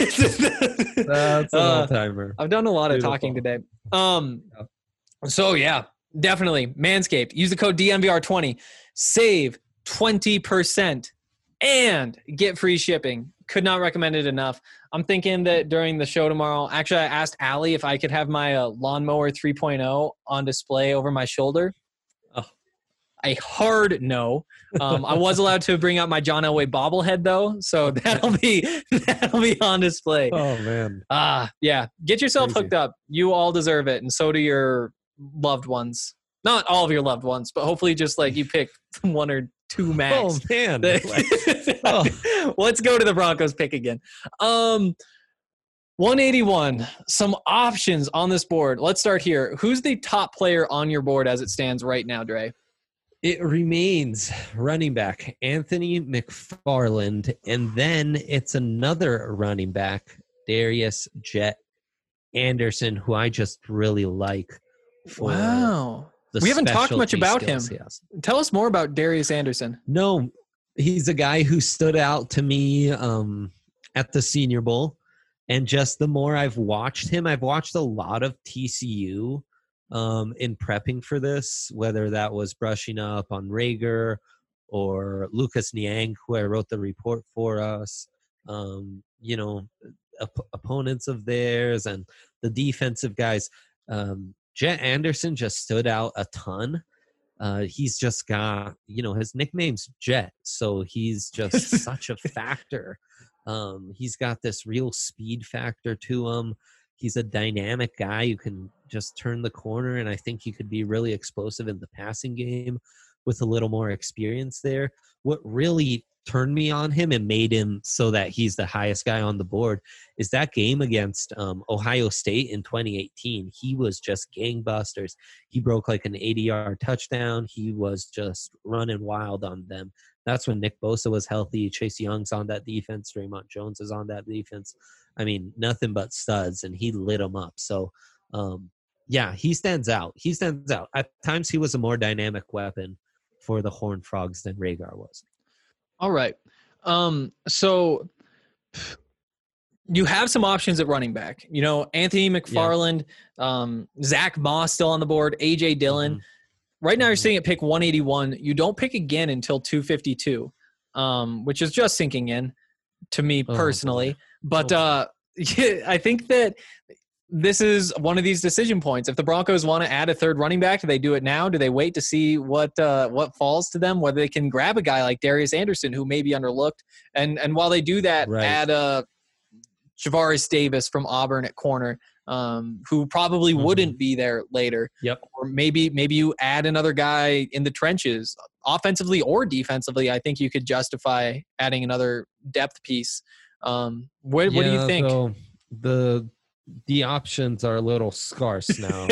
[SPEAKER 3] That's an all-timer.
[SPEAKER 2] I've done a lot of
[SPEAKER 3] Beautiful.
[SPEAKER 2] talking today. So yeah, definitely Manscaped. Use the code DNVR20. Save 20% and get free shipping. Could not recommend it enough. I'm thinking that during the show tomorrow, actually I asked Allie if I could have my lawnmower 3.0 on display over my shoulder.
[SPEAKER 3] Oh.
[SPEAKER 2] A hard no. I was allowed to bring out my John Elway bobblehead though, so that'll be on display.
[SPEAKER 3] Oh man.
[SPEAKER 2] Yeah. Get yourself
[SPEAKER 3] Crazy.
[SPEAKER 2] hooked up. You all deserve it, and so do your loved ones. Not all of your loved ones, but hopefully just like you pick one or two max.
[SPEAKER 3] Oh man.
[SPEAKER 2] Let's go to the Broncos pick again. 181. Some options on this board. Let's start here. Who's the top player on your board as it stands right now, Dre?
[SPEAKER 3] It remains running back Anthony McFarland, and then it's another running back, Darius Jet Anderson, who I just really like. For
[SPEAKER 2] Wow.
[SPEAKER 3] the
[SPEAKER 2] We haven't talked much
[SPEAKER 3] specialty
[SPEAKER 2] about
[SPEAKER 3] skills
[SPEAKER 2] him.
[SPEAKER 3] he has.
[SPEAKER 2] Tell us more about Darius Anderson.
[SPEAKER 3] No, he's a guy who stood out to me at the Senior Bowl, and just the more I've watched him, I've watched a lot of TCU. In prepping for this, whether that was brushing up on Rager or Lucas Niang, who I wrote the report for us, opponents of theirs and the defensive guys. Jet Anderson just stood out a ton. He's just got, his nickname's Jet, so he's just such a factor. He's got this real speed factor to him. He's a dynamic guy who can just turn the corner, and I think he could be really explosive in the passing game with a little more experience there. What really turned me on him and made him so that he's the highest guy on the board is that game against Ohio State in 2018. He was just gangbusters. He broke like an 80-yard touchdown. He was just running wild on them. That's when Nick Bosa was healthy. Chase Young's on that defense. Draymond Jones is on that defense. I mean, nothing but studs, and he lit them up. So, he stands out. He stands out. At times, he was a more dynamic weapon for the Horned Frogs than Rhaegar was.
[SPEAKER 2] All right. So you have some options at running back. Anthony McFarland, Zach Moss still on the board, A.J. Dillon.
[SPEAKER 3] Mhm.
[SPEAKER 2] Right now you're sitting at pick 181. You don't pick again until 252. which is just sinking in to me
[SPEAKER 3] Oh,
[SPEAKER 2] personally.
[SPEAKER 3] boy.
[SPEAKER 2] But
[SPEAKER 3] Oh,
[SPEAKER 2] I think that this is one of these decision points. If the Broncos want to add a third running back, do they do it now? Do they wait to see what falls to them? Whether they can grab a guy like Darius Anderson, who may be underlooked, and while they do that,
[SPEAKER 3] Right.
[SPEAKER 2] add Javaris Davis from Auburn at corner, who probably
[SPEAKER 3] Mhm.
[SPEAKER 2] wouldn't be there later.
[SPEAKER 3] Yep.
[SPEAKER 2] Or maybe you add another guy in the trenches, offensively or defensively. I think you could justify adding another depth piece. What do you think?
[SPEAKER 3] Though the options are a little scarce now.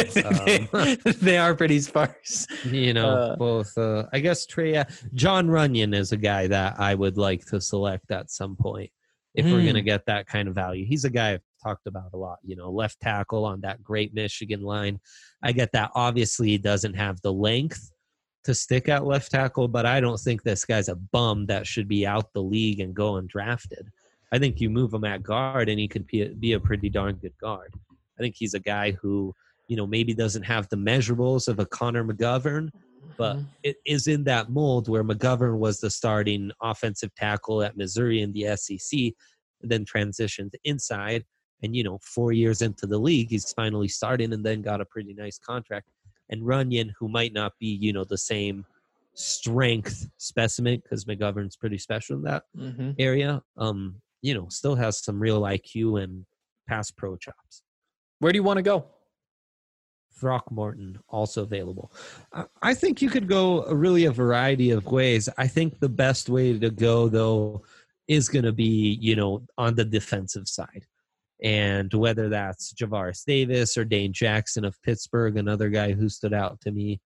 [SPEAKER 2] They are pretty sparse.
[SPEAKER 3] Both. I guess John Runyon is a guy that I would like to select at some point if we're going to get that kind of value. He's a guy I've talked about a lot. Left tackle on that great Michigan line. I get that. Obviously, he doesn't have the length to stick at left tackle, but I don't think this guy's a bum that should be out the league and go undrafted. I think you move him at guard and he could be a pretty darn good guard. I think he's a guy who, maybe doesn't have the measurables of a Connor McGovern, but it is in that mold where McGovern was the starting offensive tackle at Missouri in the SEC, and then transitioned inside. And, 4 years into the league, he's finally starting and then got a pretty nice contract. And Runyon, who might not be, the same strength specimen, because McGovern's pretty special in that area, still has some real IQ and pass pro chops.
[SPEAKER 2] Where do you want to go?
[SPEAKER 3] Throckmorton, also available. I think you could go really a variety of ways. I think the best way to go, though, is going to be, on the defensive side. And whether that's Javaris Davis or Dane Jackson of Pittsburgh, another guy who stood out to me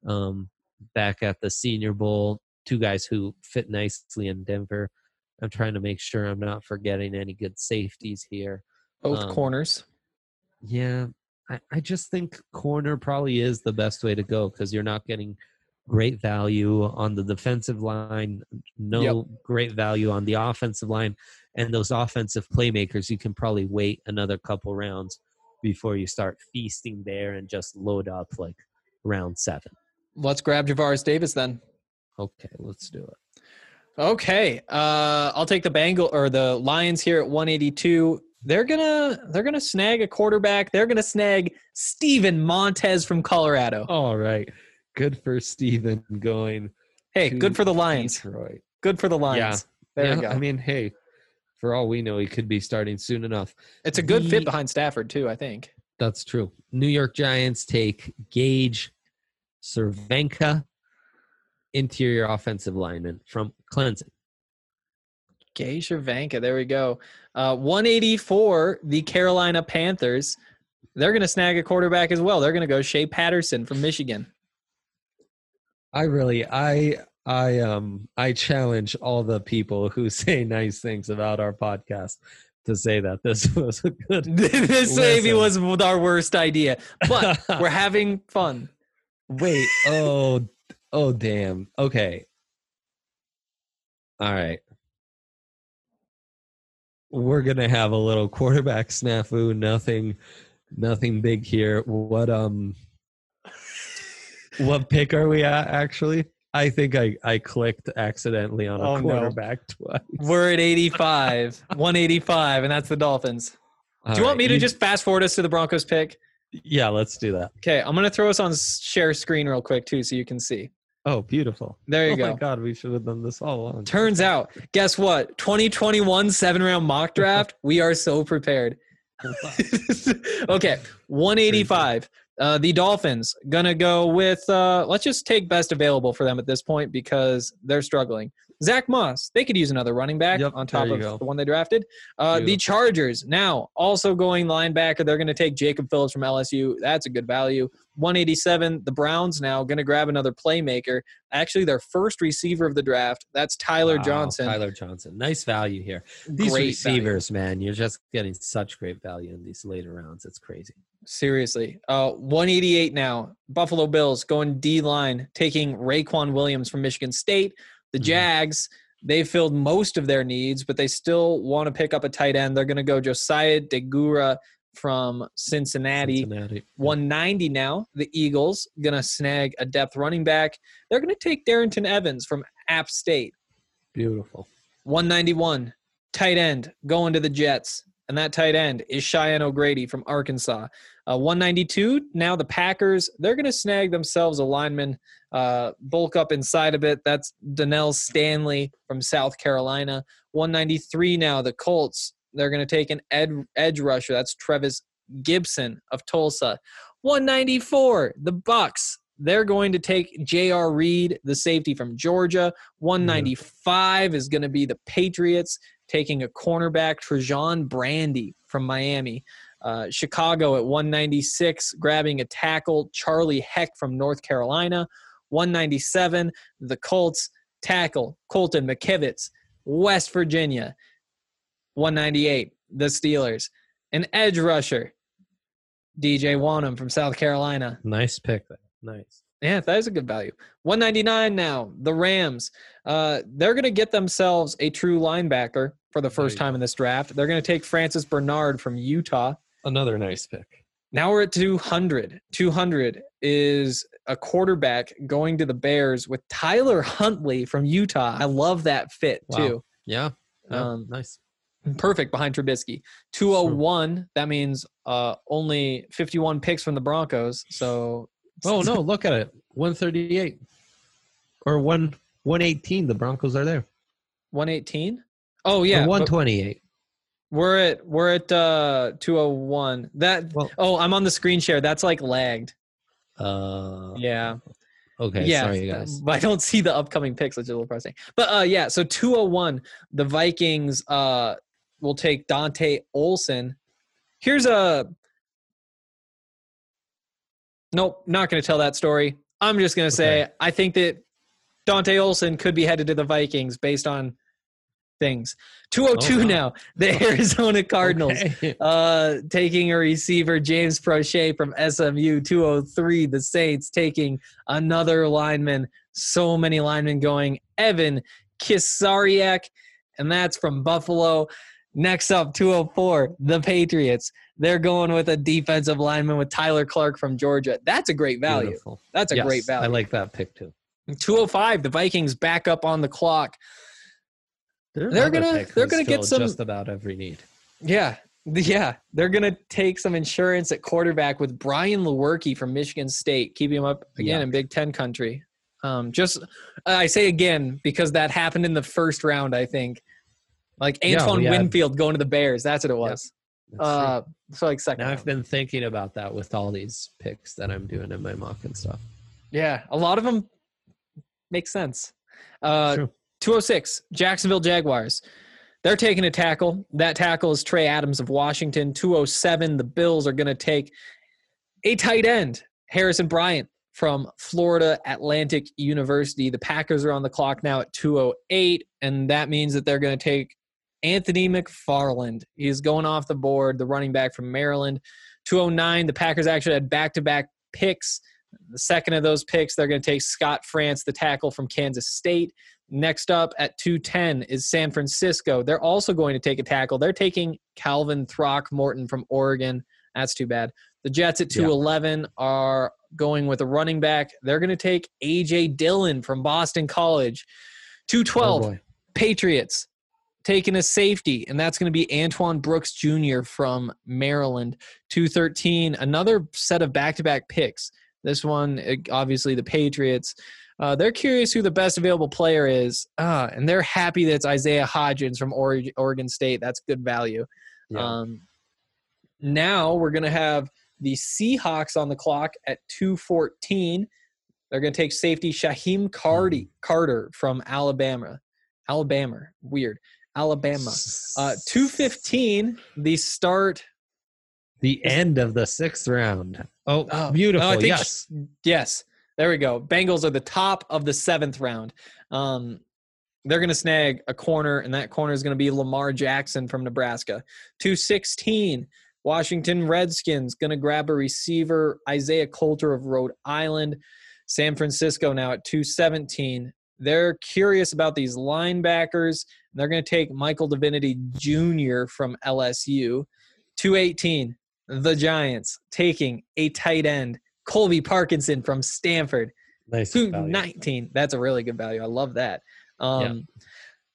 [SPEAKER 3] back at the Senior Bowl, two guys who fit nicely in Denver. I'm trying to make sure I'm not forgetting any good safeties here.
[SPEAKER 2] Both corners.
[SPEAKER 3] Yeah, I just think corner probably is the best way to go because you're not getting great value on the defensive line, great value on the offensive line, and those offensive playmakers, you can probably wait another couple rounds before you start feasting there and just load up like round 7.
[SPEAKER 2] Let's grab Javaris Davis then.
[SPEAKER 3] Okay, let's do it.
[SPEAKER 2] Okay, I'll take the Lions here at 182. They're gonna snag a quarterback. They're gonna snag Steven Montez from Colorado.
[SPEAKER 3] All right, good for Steven going.
[SPEAKER 2] Hey, good for the Lions.
[SPEAKER 3] Detroit.
[SPEAKER 2] Good for the Lions.
[SPEAKER 3] Yeah.
[SPEAKER 2] There we go.
[SPEAKER 3] I mean, hey, for all we know, he could be starting soon enough.
[SPEAKER 2] It's a good fit behind Stafford too, I think.
[SPEAKER 3] That's true. New York Giants take Gage Cervenka, interior offensive lineman from Clemson.
[SPEAKER 2] Gage Cervenka, there we go. 184, the Carolina Panthers. They're going to snag a quarterback as well. They're going to go Shea Patterson from Michigan.
[SPEAKER 3] I challenge all the people who say nice things about our podcast to say that this was a good.
[SPEAKER 2] This maybe was our worst idea, but we're having fun.
[SPEAKER 3] Wait. Oh, damn. Okay. All right. We're going to have a little quarterback snafu. Nothing big here. What pick are we at, actually? I think I clicked accidentally on a quarterback twice.
[SPEAKER 2] We're at 85, 185, and that's the Dolphins. Do you want me to just fast forward us to the Broncos pick?
[SPEAKER 3] Yeah, let's do that.
[SPEAKER 2] Okay, I'm going to throw us on share screen real quick, too, so you can see.
[SPEAKER 3] Oh, beautiful.
[SPEAKER 2] There you go.
[SPEAKER 3] Oh, my God, we should have done this all along.
[SPEAKER 2] Turns out, guess what? 2021 7-round mock draft, we are so prepared. Okay, 185. The Dolphins going to go with, let's just take best available for them at this point because they're struggling. Zach Moss, they could use another running back on top of the one they drafted. The Chargers, now also going linebacker. They're going to take Jacob Phillips from LSU. That's a good value. 187, the Browns now going to grab another playmaker. Actually, their first receiver of the draft. That's Tyler Johnson.
[SPEAKER 3] Tyler Johnson. Nice value here. These
[SPEAKER 2] Great
[SPEAKER 3] receivers,
[SPEAKER 2] value.
[SPEAKER 3] Man, you're just getting such great value in these later rounds. It's crazy.
[SPEAKER 2] Seriously. 188 now. Buffalo Bills going D-line, taking Raekwon Williams from Michigan State. The Jags, they filled most of their needs, but they still want to pick up a tight end. They're going to go Josiah Deguara from Cincinnati. 190 now. The Eagles going to snag a depth running back. They're going to take Darrington Evans from App State.
[SPEAKER 3] Beautiful.
[SPEAKER 2] 191, tight end, going to the Jets. And that tight end is Cheyenne O'Grady from Arkansas. 192, now the Packers, they're going to snag themselves a lineman, bulk up inside a bit. That's Donnell Stanley from South Carolina. 193 now, the Colts, they're going to take an edge rusher. That's Trevis Gibson of Tulsa. 194, the Bucks, they're going to take J.R. Reed, the safety from Georgia. 195 is going to be the Patriots taking a cornerback, Trajan Brandy from Miami. Chicago at 196, grabbing a tackle, Charlie Heck from North Carolina. 197, the Colts, tackle, Colton McKivitz, West Virginia. 198, the Steelers, an edge rusher, DJ Wanham from South Carolina.
[SPEAKER 3] Nice pick. Nice.
[SPEAKER 2] Yeah, that is a good value. 199 now, the Rams. They're going to get themselves a true linebacker for the first time in this draft. They're going to take Francis Bernard from Utah.
[SPEAKER 3] Another nice pick.
[SPEAKER 2] Now we're at 200. 200 is a quarterback going to the Bears with Tyler Huntley from Utah. I love that fit, too.
[SPEAKER 3] Yeah. Nice.
[SPEAKER 2] Perfect behind Trubisky. 201, that means only 51 picks from the Broncos. So...
[SPEAKER 3] Oh, no, look at it. 138. Or 118. The Broncos are there.
[SPEAKER 2] 118? Oh, yeah.
[SPEAKER 3] Or 128.
[SPEAKER 2] We're at 201. I'm on the screen share. That's like lagged. Yeah.
[SPEAKER 3] Okay,
[SPEAKER 2] yeah,
[SPEAKER 3] sorry, guys.
[SPEAKER 2] But I don't see the upcoming picks, which is a little frustrating. But, yeah, so 201, the Vikings will take Dante Olson. Here's a... Nope, not going to tell that story. I'm just going to say I think that Dante Olson could be headed to the Vikings based on things. 202 now, the Arizona Cardinals taking a receiver, James Prochet from SMU. 203, the Saints taking another lineman. So many linemen going. Evan Kisariak, and that's from Buffalo. Next up, 204, the Patriots. They're going with a defensive lineman with Tyler Clark from Georgia. That's a great value.
[SPEAKER 3] Beautiful.
[SPEAKER 2] That's a great value.
[SPEAKER 3] I like that pick too.
[SPEAKER 2] 205, the Vikings back up on the clock. They're gonna get some
[SPEAKER 3] just about every need.
[SPEAKER 2] Yeah. They're gonna take some insurance at quarterback with Brian Lewerke from Michigan State, keeping him up again in Big Ten country. I say again because that happened in the first round. I think like Antoine Winfield going to the Bears. That's what it was. So like second.
[SPEAKER 3] Now
[SPEAKER 2] round.
[SPEAKER 3] I've been thinking about that with all these picks that I'm doing in my mock and stuff.
[SPEAKER 2] Yeah, a lot of them make sense.
[SPEAKER 3] True.
[SPEAKER 2] 206, Jacksonville Jaguars. They're taking a tackle. That tackle is Trey Adams of Washington. 207, the Bills are going to take a tight end, Harrison Bryant from Florida Atlantic University. The Packers are on the clock now at 208, and that means that they're going to take Anthony McFarland. He's going off the board, the running back from Maryland. 209, the Packers actually had back-to-back picks. The second of those picks, they're going to take Scott France, the tackle from Kansas State. Next up at 210 is San Francisco. They're also going to take a tackle. They're taking Calvin Throckmorton from Oregon. That's too bad. The Jets at 211 are going with a running back. They're going to take A.J. Dillon from Boston College. 212, Patriots taking a safety, and that's going to be Antoine Brooks Jr. from Maryland. 213, another set of back-to-back picks. This one, obviously, the Patriots. They're curious who the best available player is, and they're happy that it's Isaiah Hodgins from Oregon State. That's good value. Yeah. Now we're going to have the Seahawks on the clock at 214. They're going to take safety Shaheem Carter from Alabama. Weird. Alabama. 215, the start.
[SPEAKER 3] The end of the 6th round. Oh, beautiful.
[SPEAKER 2] Yes. There we go. Bengals are the top of the 7th round. They're going to snag a corner, and that corner is going to be Lamar Jackson from Nebraska. 216, Washington Redskins going to grab a receiver, Isaiah Coulter of Rhode Island. San Francisco now at 217. They're curious about these linebackers. They're going to take Michael Divinity Jr. from LSU. 218, the Giants taking a tight end, Colby Parkinson from Stanford.
[SPEAKER 3] Nice.
[SPEAKER 2] 219, that's a really good value. I love that.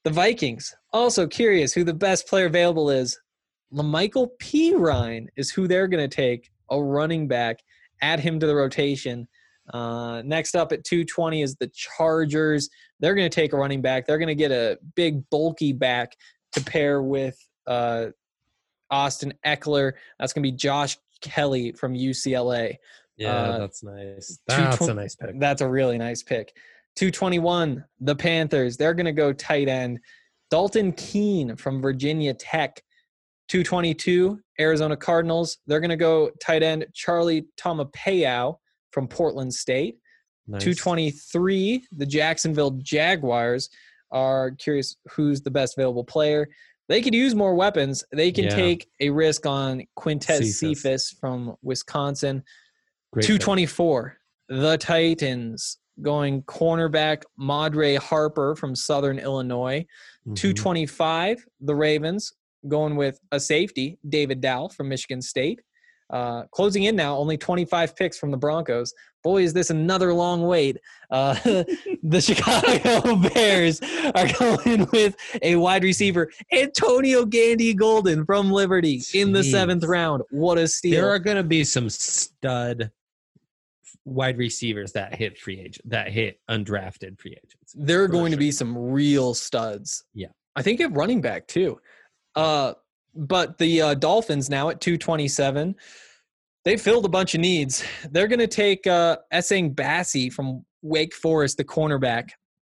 [SPEAKER 2] The Vikings, also curious who the best player available is. LaMichael Pirine is who they're going to take, a running back, add him to the rotation. Next up at 220 is the Chargers. They're going to take a running back. They're going to get a big, bulky back to pair with Austin Eckler. That's going to be Josh Kelly from UCLA.
[SPEAKER 3] Yeah, that's nice. That's a nice pick.
[SPEAKER 2] That's a really nice pick. 221, the Panthers. They're going to go tight end. Dalton Keene from Virginia Tech. 222, Arizona Cardinals. They're going to go tight end Charlie Tomapeo from Portland State. Nice. 223, the Jacksonville Jaguars are curious who's the best available player. They could use more weapons. They can take a risk on Quintez Cephas from Wisconsin. Great 224, the Titans going cornerback Madre Harper from Southern Illinois. 225, the Ravens going with a safety, David Dow from Michigan State. Closing in now, only 25 picks from the Broncos. Boy, is this another long wait. The Chicago Bears are going with a wide receiver, Antonio Gandy Golden from Liberty in the 7th round. What a steal.
[SPEAKER 3] There are going to be some stud wide receivers that hit undrafted free agents.
[SPEAKER 2] There are going to be some real studs.
[SPEAKER 3] Yeah. I
[SPEAKER 2] think at running back too. But the Dolphins now at 227, they filled a bunch of needs. They're going to take Essang Bassey from Wake Forest, the cornerback.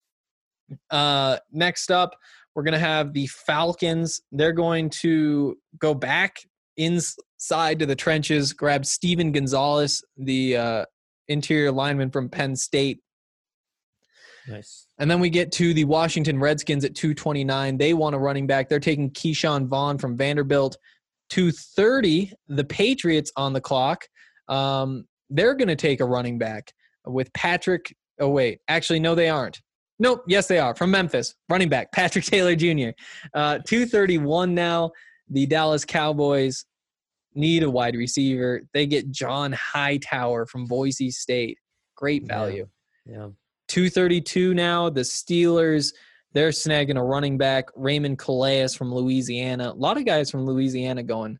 [SPEAKER 2] Next up, we're going to have the Falcons. They're going to go back inside to the trenches, grab Steven Gonzalez, the interior lineman from Penn State.
[SPEAKER 3] Nice.
[SPEAKER 2] And then we get to the Washington Redskins at 229. They want a running back. They're taking Keyshawn Vaughn from Vanderbilt. 230, the Patriots on the clock. They're going to take a running back with Patrick. Oh, wait. Actually, no, they aren't. Nope. Yes, they are. From Memphis. Running back, Patrick Taylor Jr. 231 now. The Dallas Cowboys need a wide receiver. They get John Hightower from Boise State. Great value.
[SPEAKER 3] Yeah.
[SPEAKER 2] 232 now, the Steelers, they're snagging a running back, Raymond Calais from Louisiana. A lot of guys from Louisiana going.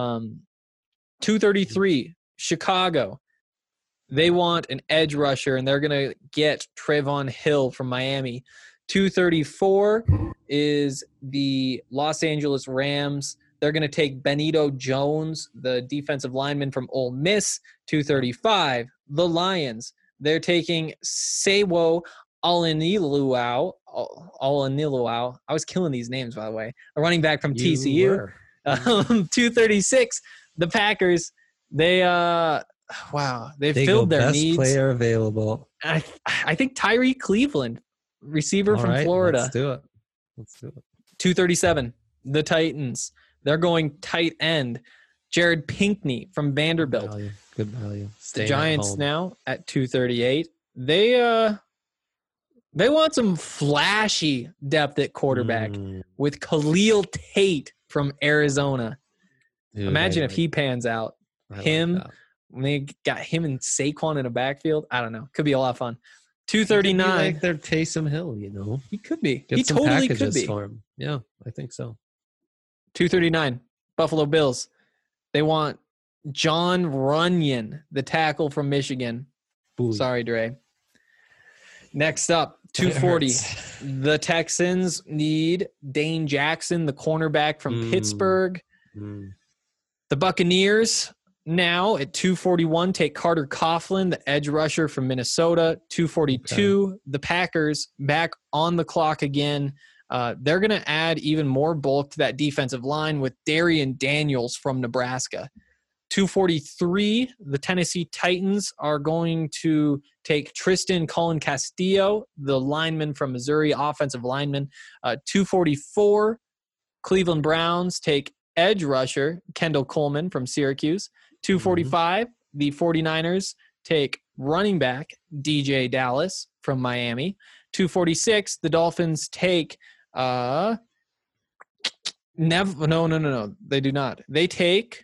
[SPEAKER 2] 233, Chicago. They want an edge rusher, and they're going to get Trayvon Hill from Miami. 234 is the Los Angeles Rams. They're going to take Benito Jones, the defensive lineman from Ole Miss. 235, the Lions. They're taking Sewo Alaniluau. I was killing these names, by the way. A running back from TCU. 236, the Packers. They filled their needs.
[SPEAKER 3] Best player available.
[SPEAKER 2] I think Tyree Cleveland, receiver from Florida.
[SPEAKER 3] Let's do it.
[SPEAKER 2] 237, the Titans. They're going tight end. Jared Pinkney from Vanderbilt.
[SPEAKER 3] Good value.
[SPEAKER 2] The Giants now at 238. They want some flashy depth at quarterback with Khalil Tate from Arizona. Dude, imagine if he pans out. When they got him and Saquon in a backfield. I don't know. Could be a lot of fun. 239.
[SPEAKER 3] Like their Taysom Hill,
[SPEAKER 2] He could be.
[SPEAKER 3] Get
[SPEAKER 2] he
[SPEAKER 3] some
[SPEAKER 2] totally
[SPEAKER 3] packages
[SPEAKER 2] could be.
[SPEAKER 3] For him. Yeah, I think so.
[SPEAKER 2] 239. Buffalo Bills. They want John Runyon, the tackle from Michigan.
[SPEAKER 3] Ooh.
[SPEAKER 2] Sorry, Dre. Next up, 240. The Texans need Dane Jackson, the cornerback from Pittsburgh. The Buccaneers now at 241 take Carter Coughlin, the edge rusher from Minnesota. 242, The Packers back on the clock again. They're going to add even more bulk to that defensive line with Darian Daniels from Nebraska. 243, the Tennessee Titans are going to take Tristan Cullen Castillo, the lineman from Missouri, offensive lineman. 244, Cleveland Browns take edge rusher Kendall Coleman from Syracuse. 245, the 49ers take running back DJ Dallas from Miami. 246, the Dolphins take no, they do not. They take.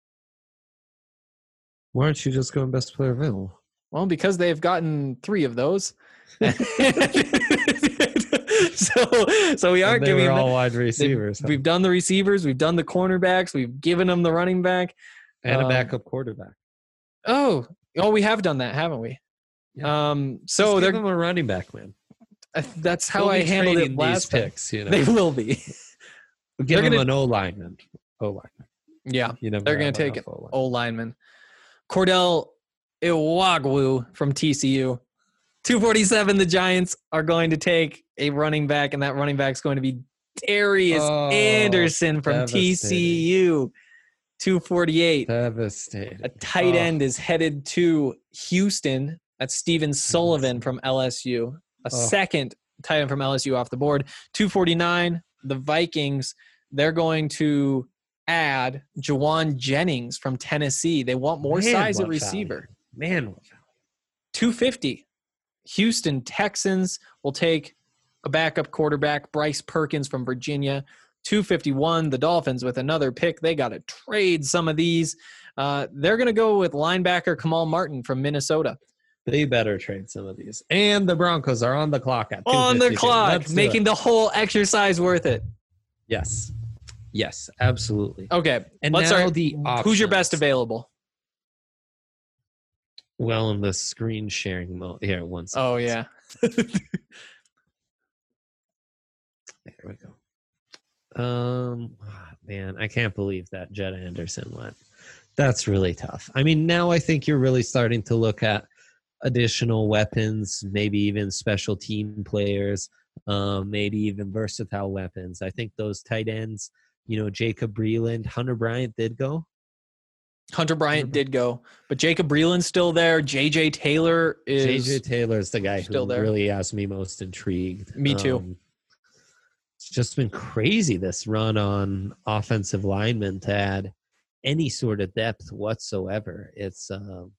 [SPEAKER 3] Why aren't you just going best player available?
[SPEAKER 2] Well, because they've gotten 3 of those. So we aren't
[SPEAKER 3] they
[SPEAKER 2] giving
[SPEAKER 3] were
[SPEAKER 2] them
[SPEAKER 3] all wide receivers.
[SPEAKER 2] We've done the receivers, we've done the cornerbacks, we've given them the running back
[SPEAKER 3] and a backup quarterback.
[SPEAKER 2] Oh, we have done that, haven't we?
[SPEAKER 3] Yeah.
[SPEAKER 2] So
[SPEAKER 3] Just
[SPEAKER 2] they're
[SPEAKER 3] give them a running back, man.
[SPEAKER 2] that's how
[SPEAKER 3] They'll
[SPEAKER 2] I
[SPEAKER 3] be
[SPEAKER 2] handled it
[SPEAKER 3] trading
[SPEAKER 2] last
[SPEAKER 3] these
[SPEAKER 2] time.
[SPEAKER 3] picks. You know,
[SPEAKER 2] They will be.
[SPEAKER 3] give them
[SPEAKER 2] gonna-
[SPEAKER 3] an O lineman.
[SPEAKER 2] Yeah,
[SPEAKER 3] You never
[SPEAKER 2] they're going
[SPEAKER 3] have
[SPEAKER 2] to take
[SPEAKER 3] enough
[SPEAKER 2] an
[SPEAKER 3] O-line.
[SPEAKER 2] O lineman. Cordell Iwagwu from TCU. 247, the Giants are going to take a running back, and that running back is going to be Darius Anderson from TCU. 248.
[SPEAKER 3] Devastating.
[SPEAKER 2] A tight end is headed to Houston. That's Steven Sullivan from LSU. A second tight end from LSU off the board. 249, the Vikings, they're going to add Jawan Jennings from Tennessee. They want more size at receiver.
[SPEAKER 3] Man, what value.
[SPEAKER 2] 250, Houston Texans will take a backup quarterback, Bryce Perkins from Virginia. 251, the Dolphins with another pick. They got to trade some of these. They're going to go with linebacker Kamal Martin from Minnesota.
[SPEAKER 3] They better trade some of these. And the Broncos are on the clock at 2:52.
[SPEAKER 2] On the clock,
[SPEAKER 3] Let's do
[SPEAKER 2] making
[SPEAKER 3] it.
[SPEAKER 2] the whole exercise worth it.
[SPEAKER 3] Yes. Yes, absolutely.
[SPEAKER 2] Okay,
[SPEAKER 3] And
[SPEAKER 2] let's
[SPEAKER 3] now
[SPEAKER 2] start.
[SPEAKER 3] the
[SPEAKER 2] Who's your best
[SPEAKER 3] options.
[SPEAKER 2] available?
[SPEAKER 3] Well, in the screen sharing mode. Here, one second.
[SPEAKER 2] Oh, yeah.
[SPEAKER 3] There we go. Man, I can't believe that Jed Anderson went. That's really tough. I mean, now I think you're really starting to look at additional weapons, maybe even special team players, maybe even versatile weapons. I think those tight ends, Jacob Breeland, Hunter Bryant did go.
[SPEAKER 2] Hunter Bryant did go, but Jacob Breeland's still there. JJ Taylor is
[SPEAKER 3] JJ Taylor's the guy
[SPEAKER 2] still
[SPEAKER 3] who
[SPEAKER 2] there.
[SPEAKER 3] really has me most intrigued.
[SPEAKER 2] Me too.
[SPEAKER 3] It's just been crazy, this run on offensive linemen to add any sort of depth whatsoever. It's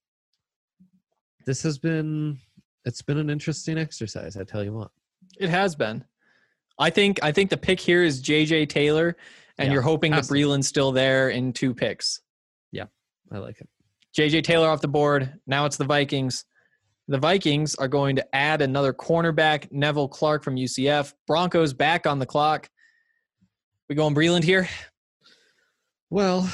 [SPEAKER 3] it's been an interesting exercise, I tell you what.
[SPEAKER 2] It has been. I think the pick here is JJ Taylor, and
[SPEAKER 3] Yeah,
[SPEAKER 2] you're hoping that
[SPEAKER 3] has to.
[SPEAKER 2] Breeland's still there in 2 picks.
[SPEAKER 3] I like it.
[SPEAKER 2] JJ Taylor off the board. Now it's the Vikings. The Vikings are going to add another cornerback, Neville Clark from UCF. Broncos back on the clock. We going Breeland here?
[SPEAKER 3] Well,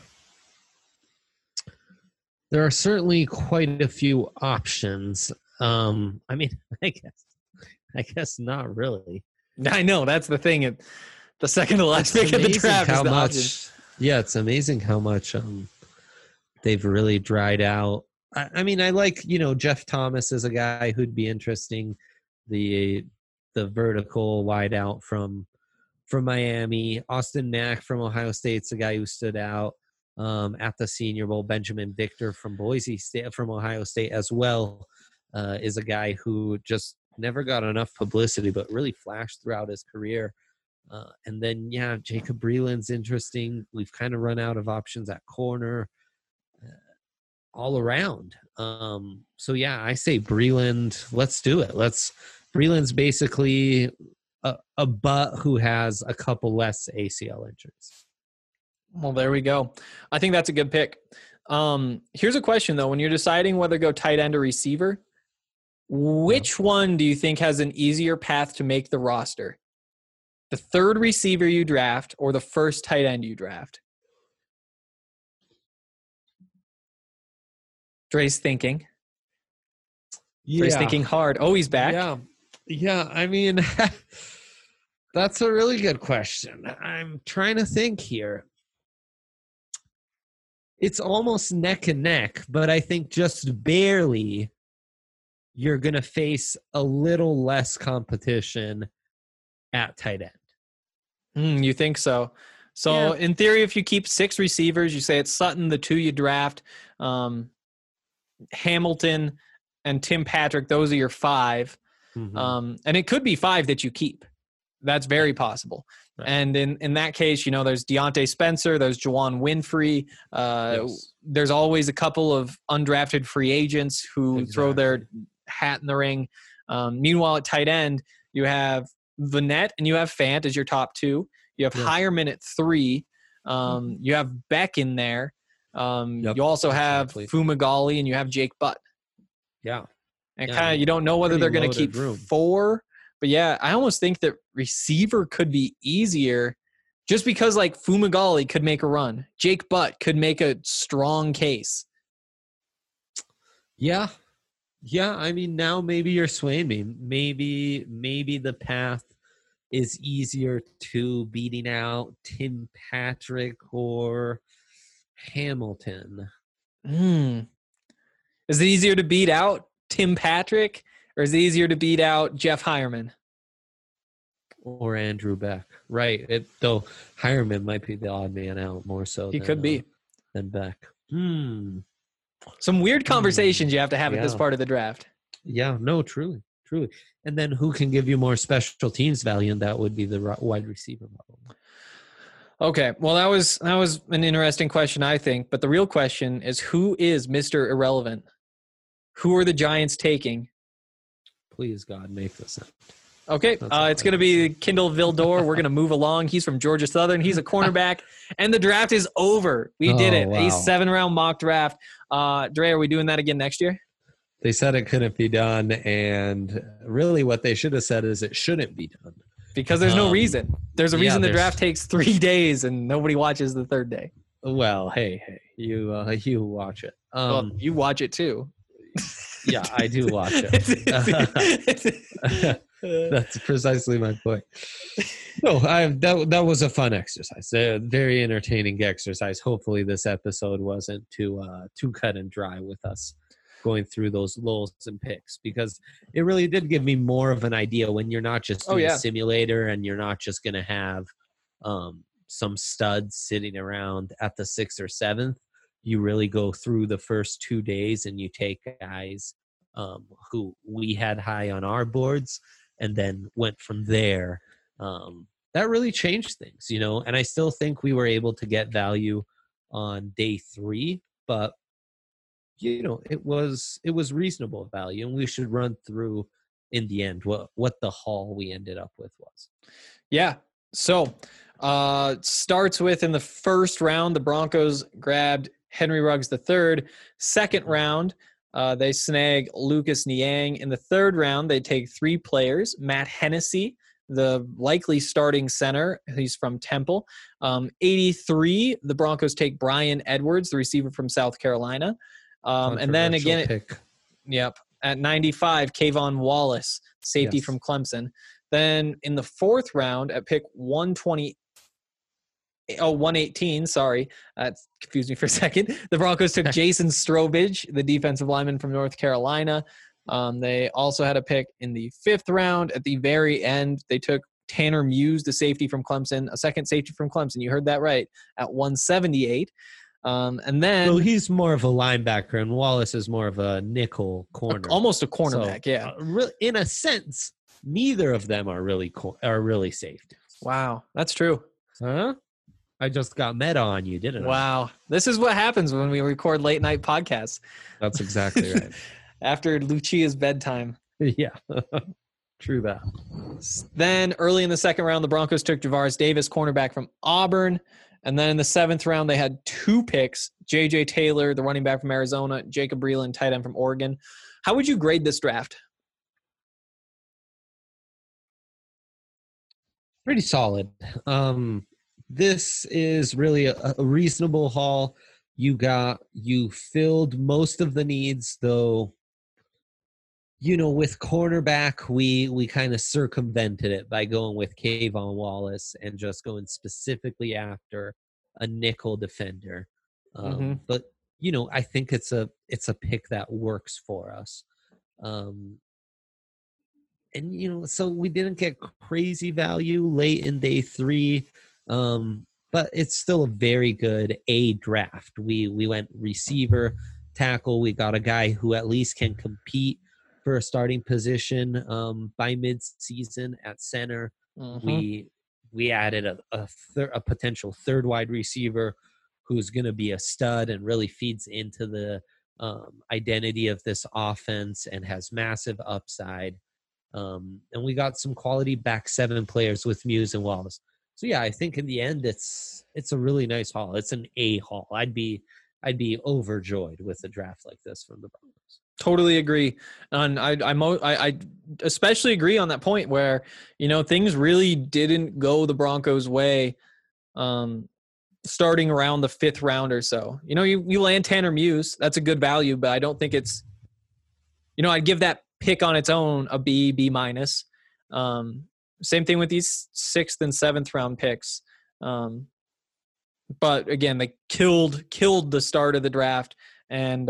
[SPEAKER 3] there are certainly quite a few options. I mean, I guess not really.
[SPEAKER 2] I know, that's the thing. The second to last pick of the draft is the option.
[SPEAKER 3] Yeah, it's amazing how much they've really dried out. I mean, I like, Jeff Thomas is a guy who'd be interesting. The vertical wideout from Miami. Austin Mack from Ohio State's a guy who stood out at the Senior Bowl. Benjamin Victor from Boise State, from Ohio State as well, is a guy who just never got enough publicity, but really flashed throughout his career. And then, Jacob Breeland's interesting. We've kind of run out of options at corner. All around. So I say Breeland. Let's do it. Breeland's basically a butt who has a couple less ACL injuries.
[SPEAKER 2] Well, there we go. I think that's a good pick. Here's a question though: when you're deciding whether to go tight end or receiver, which one do you think has an easier path to make the roster? The third receiver you draft or the first tight end you draft? Dre's thinking. Dre's thinking hard. Oh, he's back.
[SPEAKER 3] Yeah. I mean, that's a really good question. I'm trying to think here. It's almost neck and neck, but I think just barely you're going to face a little less competition at tight end.
[SPEAKER 2] You think so? So in theory, if you keep 6 receivers, you say it's Sutton, the 2 you draft, Hamilton and Tim Patrick, those are your 5.
[SPEAKER 3] Mm-hmm.
[SPEAKER 2] And it could be 5 that you keep. That's very possible. Right. And in that case, there's Deontay Spencer, there's Juwan Winfrey. There's always a couple of undrafted free agents who throw their hat in the ring. Meanwhile, at tight end, you have Vanette and you have Fant as your top 2. You have Hireman at 3. You have Beck in there. You also have Fumagalli and you have Jake Butt.
[SPEAKER 3] Yeah.
[SPEAKER 2] And kind of you don't know whether they're going to keep 4 But yeah, I almost think that receiver could be easier just because like Fumagalli could make a run. Jake Butt could make a strong case.
[SPEAKER 3] Yeah. Yeah, I mean, now maybe you're swaying me. Maybe the path is easier to beating out Tim Patrick or Hamilton.
[SPEAKER 2] Is it easier to beat out Tim Patrick, or is it easier to beat out Jeff Hireman?
[SPEAKER 3] Or Andrew Beck. Right. Though Hireman might be the odd man out more so
[SPEAKER 2] He could be.
[SPEAKER 3] Than Beck.
[SPEAKER 2] Some weird conversations you have to have at this part of the draft.
[SPEAKER 3] Yeah, no, truly. And then who can give you more special teams value? And that would be the wide receiver model.
[SPEAKER 2] Okay, well, that was an interesting question, I think. But the real question is, who is Mr. Irrelevant? Who are the Giants taking?
[SPEAKER 3] Please, God, make this up.
[SPEAKER 2] Okay, it's going to be Kindle Vildor. We're going to move along. He's from Georgia Southern. He's a cornerback, and the draft is over. We did it. Wow. A 7-round mock draft. Dre, are we doing that again next year?
[SPEAKER 3] They said it couldn't be done, and really what they should have said is it shouldn't be done.
[SPEAKER 2] Because there's no reason. There's a reason the draft takes 3 days and nobody watches the third day.
[SPEAKER 3] Well, hey, you watch it.
[SPEAKER 2] Well, you watch it too.
[SPEAKER 3] Yeah, I do watch it. That's precisely my point. No, that was a fun exercise, a very entertaining exercise. Hopefully, this episode wasn't too cut and dry with us going through those lulls and picks, because it really did give me more of an idea when you're not just doing a simulator and you're not just going to have some studs sitting around at the 6th or 7th. You really go through the first 2 days and you take guys who we had high on our boards and then went from there. That really changed things, and I still think we were able to get value on day 3, but it was reasonable value, and we should run through in the end what the haul we ended up with was.
[SPEAKER 2] Yeah. So starts with, in the first round, the Broncos grabbed Henry Ruggs III. Second round, they snag Lucas Niang. In the third round, they take 3 players: Matt Hennessy, the likely starting center. He's from Temple. 83, the Broncos take Brian Edwards, the receiver from South Carolina. And then again, at 95, Kayvon Wallace, safety from Clemson. Then in the 4th round at pick 118, sorry, that confused me for a second. The Broncos took Jason Strobridge, the defensive lineman from North Carolina. They also had a pick in the 5th round. At the very end, they took Tanner Muse, the safety from Clemson, a second safety from Clemson. You heard that right, at 178. And then,
[SPEAKER 3] well, he's more of a linebacker, and Wallace is more of a nickel corner,
[SPEAKER 2] almost a cornerback.
[SPEAKER 3] In a sense, neither of them are really safety.
[SPEAKER 2] Wow, that's true.
[SPEAKER 3] Huh? I just got meta on you, didn't I?
[SPEAKER 2] Wow, this is what happens when we record late night podcasts.
[SPEAKER 3] That's exactly right.
[SPEAKER 2] After Lucia's bedtime.
[SPEAKER 3] Yeah, true that.
[SPEAKER 2] Then early in the 2nd round, the Broncos took Javaris Davis, cornerback from Auburn. And then in the 7th round, they had 2 picks: J.J. Taylor, the running back from Arizona, Jacob Breeland, tight end from Oregon. How would you grade this draft?
[SPEAKER 3] Pretty solid. This is really a reasonable haul. You filled most of the needs, though. With cornerback, we kind of circumvented it by going with Kayvon Wallace and just going specifically after a nickel defender. But I think it's a pick that works for us. And so we didn't get crazy value late in day 3, but it's still a very good draft. We went receiver, tackle. We got a guy who at least can compete for a starting position by mid-season at center. We added a potential 3rd wide receiver who's going to be a stud and really feeds into the identity of this offense and has massive upside. And we got some quality back 7 players with Muse and Wallace. So yeah, I think in the end it's a really nice haul. It's an A haul. I'd be overjoyed with a draft like this from the Broncos.
[SPEAKER 2] Totally agree. And I especially agree on that point where, things really didn't go the Broncos' way starting around the 5th round or so. You land Tanner Muse. That's a good value, but I don't think it's, I'd give that pick on its own a B minus. Same thing with these 6th and 7th round picks. But again, they killed the start of the draft. And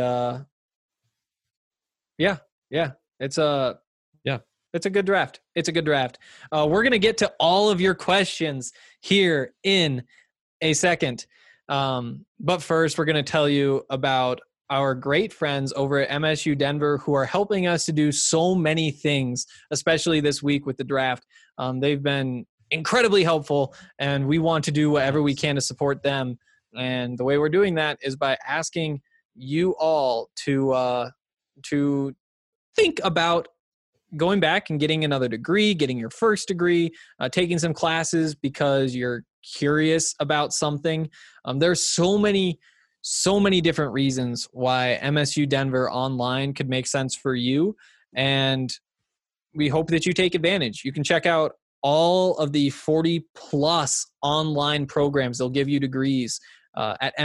[SPEAKER 2] yeah, it's a good draft. It's a good draft. We're going to get to all of your questions here in a second. But first, we're going to tell you about our great friends over at MSU Denver who are helping us to do so many things, especially this week with the draft. They've been incredibly helpful, and we want to do whatever we can to support them. And the way we're doing that is by asking you all to think about going back and getting another degree, getting your first degree, taking some classes because you're curious about something. There's so many different reasons why MSU Denver online could make sense for you. And we hope that you take advantage. You can check out all of the 40 plus online programs. They'll give you degrees at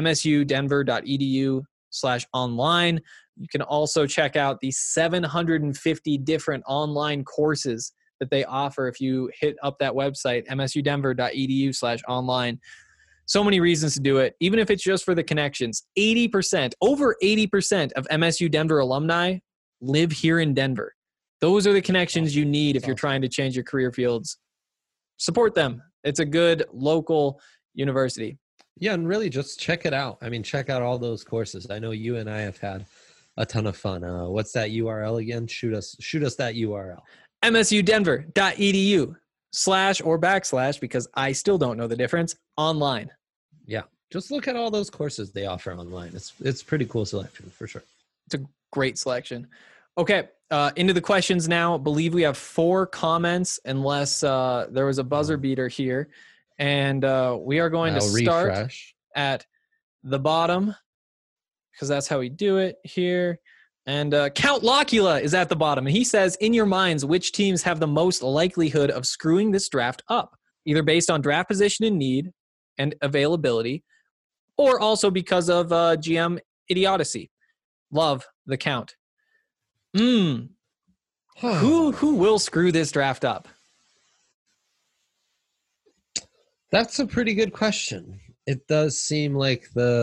[SPEAKER 2] msudenver.edu/online. You can also check out the 750 different online courses that they offer if you hit up that website, msudenver.edu/online. So many reasons to do it, even if it's just for the connections. Over 80% of MSU Denver alumni live here in Denver. Those are the connections you need if you're trying to change your career fields. Support them. It's a good local university.
[SPEAKER 3] Yeah, and really just check it out. I mean, check out all those courses. I know you and I have had a ton of fun. What's that URL again? Shoot us that URL.
[SPEAKER 2] msudenver.edu/or / because I still don't know the difference, online.
[SPEAKER 3] Yeah, just look at all those courses they offer online. It's pretty cool selection for sure.
[SPEAKER 2] It's a great selection. Okay, into the questions now. I believe we have 4 comments unless there was a buzzer beater here. And we are going to start at the bottom because that's how we do it here. And Count Locula is at the bottom. And he says, in your minds, which teams have the most likelihood of screwing this draft up, either based on draft position and need and availability, or also because of GM idiocy? Love the Count. Who will screw this draft up?
[SPEAKER 3] That's a pretty good question. It does seem like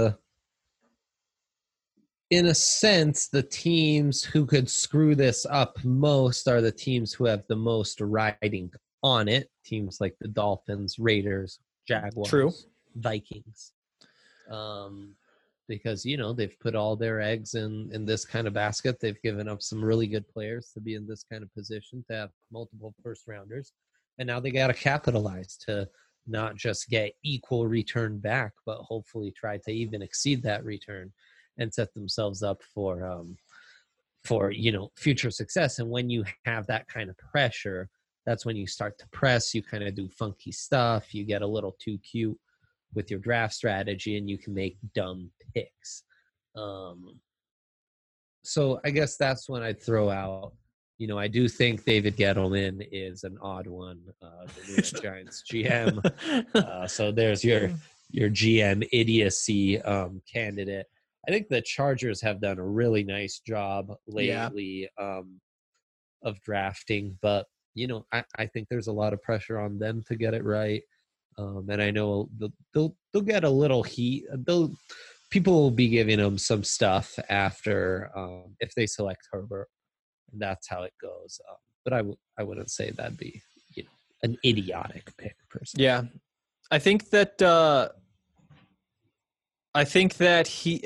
[SPEAKER 3] in a sense, the teams who could screw this up most are the teams who have the most riding on it. Teams like the Dolphins, Raiders, Jaguars,
[SPEAKER 2] True.
[SPEAKER 3] Vikings. Because, they've put all their eggs in this kind of basket. They've given up some really good players to be in this kind of position, to have multiple first rounders. And now they got to capitalize to not just get equal return back, but hopefully try to even exceed that return and set themselves up for future success. And when you have that kind of pressure, that's when you start to press. You kind of do funky stuff. You get a little too cute with your draft strategy, and you can make dumb picks. So I guess that's when I'd throw out. I do think David Gettleman is an odd one, the New York Giants GM. So there's your GM idiocy candidate. I think the Chargers have done a really nice job lately of drafting, but I think there's a lot of pressure on them to get it right. And I know they'll get a little heat. People will be giving them some stuff after if they select Herbert. And that's how it goes. But I wouldn't say that'd be an idiotic pick per se.
[SPEAKER 2] Yeah, I think that he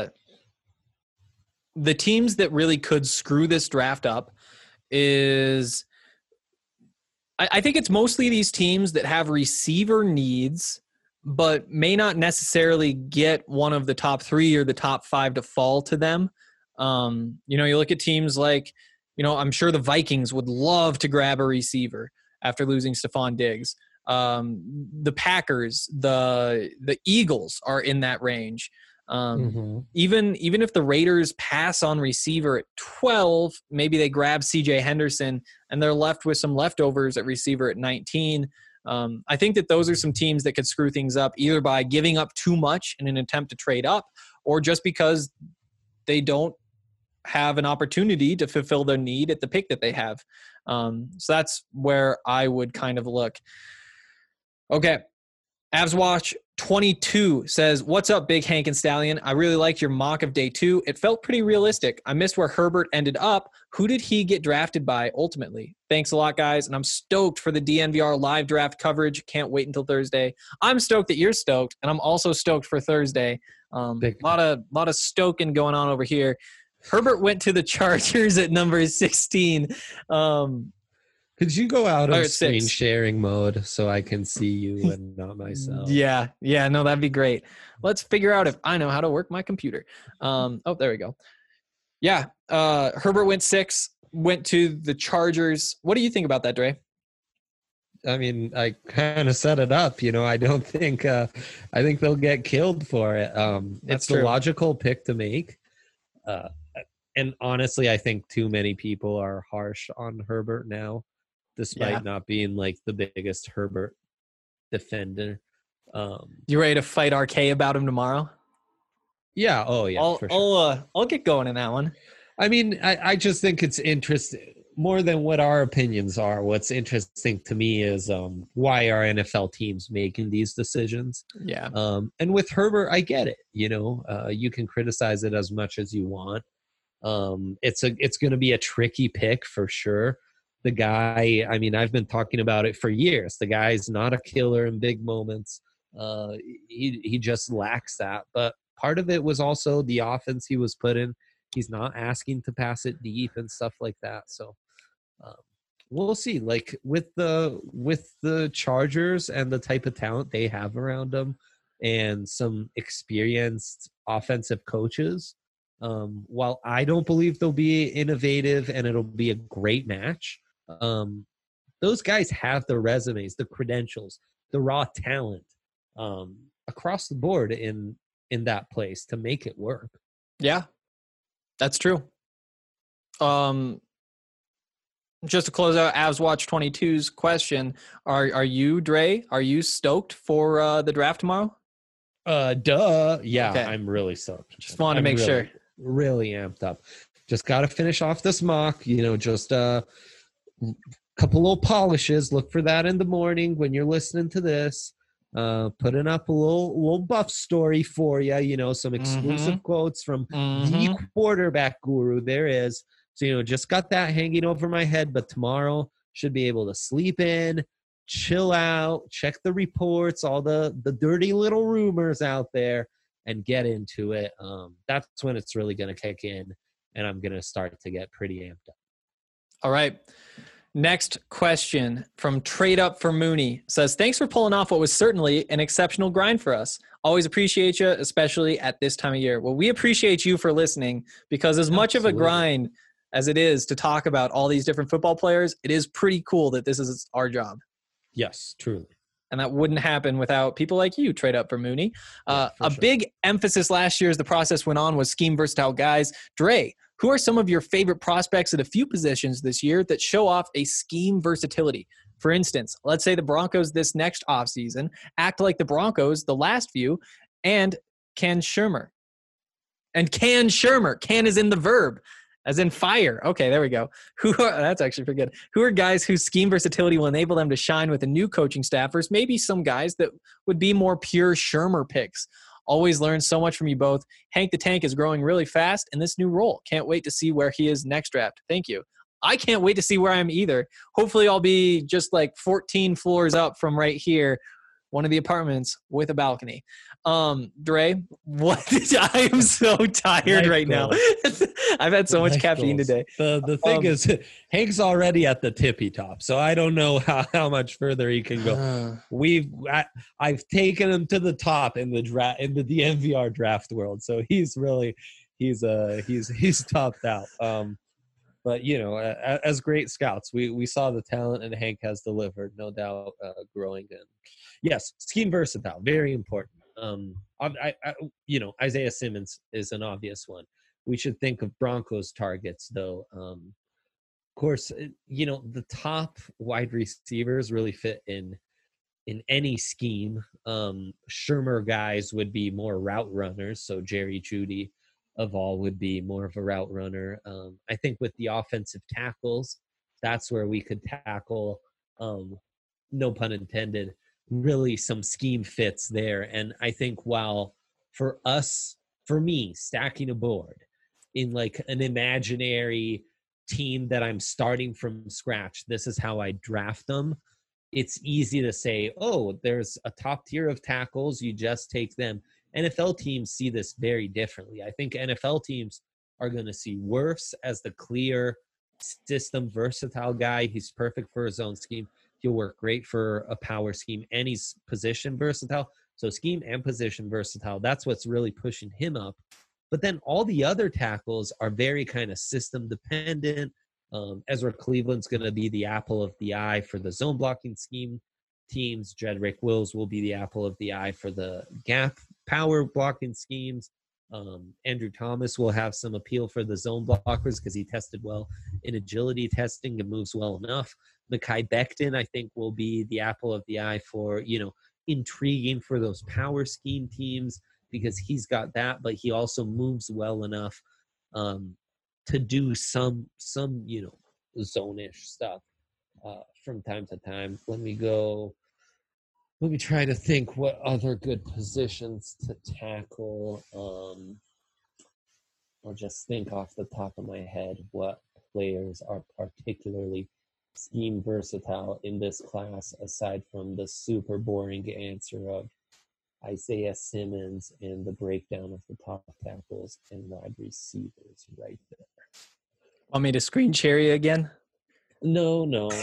[SPEAKER 2] the teams that really could screw this draft up is I think it's mostly these teams that have receiver needs, but may not necessarily get one of the top 3 or the top 5 to fall to them. You look at teams like, I'm sure the Vikings would love to grab a receiver after losing Stephon Diggs. The Packers, the Eagles are in that range. Even if the Raiders pass on receiver at 12, maybe they grab CJ Henderson and they're left with some leftovers at receiver at 19. I think that those are some teams that could screw things up either by giving up too much in an attempt to trade up or just because they don't have an opportunity to fulfill their need at the pick that they have. So that's where I would kind of look. Okay. Avs Watch 22 says, "What's up, Big Hank and Stallion? I really liked your mock of day 2. It felt pretty realistic. I missed where Herbert ended up. Who did he get drafted by ultimately? Thanks a lot, guys. And I'm stoked for the DNVR live draft coverage. Can't wait until Thursday. I'm stoked that you're stoked, and I'm also stoked for Thursday. A lot of stoking going on over here. Herbert went to the Chargers at number 16.
[SPEAKER 3] Could you go out of screen
[SPEAKER 2] 6.
[SPEAKER 3] sharing mode so I can see you and not myself?
[SPEAKER 2] Yeah, no, that'd be great. Let's figure out if I know how to work my computer. There we go. Yeah, Herbert went 6, went to the Chargers. What do you think about that, Dre?
[SPEAKER 3] I mean, I kind of set it up. I don't think I think they'll get killed for it. It's the logical pick to make. And honestly, I think too many people are harsh on Herbert now, despite not being like the biggest Herbert defender.
[SPEAKER 2] You ready to fight RK about him tomorrow?
[SPEAKER 3] Yeah. Oh, yeah. For sure.
[SPEAKER 2] I'll get going in that one.
[SPEAKER 3] I mean, I just think it's interesting more than what our opinions are. What's interesting to me is why are NFL teams making these decisions?
[SPEAKER 2] Yeah.
[SPEAKER 3] And with Herbert, I get it. You can criticize it as much as you want. It's going to be a tricky pick for sure. The guy, I mean, I've been talking about it for years. The guy's not a killer in big moments. He just lacks that. But part of it was also the offense he was put in. He's not asking to pass it deep and stuff like that. So we'll see. Like with the Chargers and the type of talent they have around them and some experienced offensive coaches, while I don't believe they'll be innovative and it'll be a great match, those guys have the resumes, the credentials, the raw talent across the board in that place to make it work.
[SPEAKER 2] Yeah, that's true. Just to close out Avs Watch 22's question, are you, Dre, are you stoked for the draft tomorrow?
[SPEAKER 3] Duh. Yeah,
[SPEAKER 2] okay.
[SPEAKER 3] I'm really stoked.
[SPEAKER 2] Just wanted to make sure.
[SPEAKER 3] Really amped up. Just got to finish off this mock, just a couple little polishes. Look for that in the morning when you're listening to this. Putting up a little buff story for you, some exclusive quotes from the quarterback guru there is. So, just got that hanging over my head, but tomorrow should be able to sleep in, chill out, check the reports, all the dirty little rumors out there, and get into it. That's when it's really going to kick in, and I'm going to start to get pretty amped up. All
[SPEAKER 2] right. Next question from Trade Up for Mooney says, "Thanks for pulling off what was certainly an exceptional grind for us. Always appreciate you, especially at this time of year." Well, we appreciate you for listening because as much of a grind as it is to talk about all these different football players, it is pretty cool that this is our job.
[SPEAKER 3] Yes, truly.
[SPEAKER 2] And that wouldn't happen without people like you, Trade Up for Mooney. Big emphasis last year as the process went on was scheme versatile guys. Dre, who are some of your favorite prospects at a few positions this year that show off a scheme versatility? For instance, let's say the Broncos this next offseason act like the Broncos the last few and Ken Shermer. And Can Shermer. Can is in the verb. As in fire. Okay, there we go. That's actually pretty good. Who are guys whose scheme versatility will enable them to shine with a new coaching staff versus maybe some guys that would be more pure Shermer picks? Always learn so much from you both. Hank the Tank is growing really fast in this new role. Can't wait to see where he is next draft. Thank you. I can't wait to see where I am either. Hopefully I'll be just like 14 floors up from right here, one of the apartments with a balcony. Dre, what? I am so tired right now. I've had so much caffeine today.
[SPEAKER 3] The thing is, Hank's already at the tippy top, so I don't know how much further he can go. I've taken him to the top in the DNVR draft world, so he's topped out. But as great scouts, we saw the talent, and Hank has delivered, no doubt. Growing in, yes, scheme versatile, very important. Isaiah Simmons is an obvious one. We should think of Broncos targets, though. Of course, the top wide receivers really fit in any scheme. Shermer guys would be more route runners, so Jerry Jeudy of all would be more of a route runner. I think with the offensive tackles, that's where we could tackle, no pun intended, really some scheme fits there. And I think while for me, stacking a board in like an imaginary team that I'm starting from scratch, this is how I draft them. It's easy to say, oh, there's a top tier of tackles, you just take them. NFL teams see this very differently. I think NFL teams are going to see Wirfs as the clear system versatile guy. He's perfect for his own scheme. He'll work great for a power scheme, and he's position versatile. So scheme and position versatile, that's what's really pushing him up. But then all the other tackles are very kind of system dependent. Ezra Cleveland's going to be the apple of the eye for the zone blocking scheme teams. Jedrick Wills will be the apple of the eye for the gap power blocking schemes. Andrew Thomas will have some appeal for the zone blockers because he tested well in agility testing and moves well enough. Mekhi Becton, I think, will be the apple of the eye for, intriguing for those power scheme teams because he's got that, but he also moves well enough to do some zone-ish stuff from time to time. Let me try to think what other good positions to tackle. I'll just think off the top of my head what players are particularly scheme versatile in this class, aside from the super boring answer of Isaiah Simmons and the breakdown of the top tackles and wide receivers right there.
[SPEAKER 2] Want me to screen share you again?
[SPEAKER 3] No.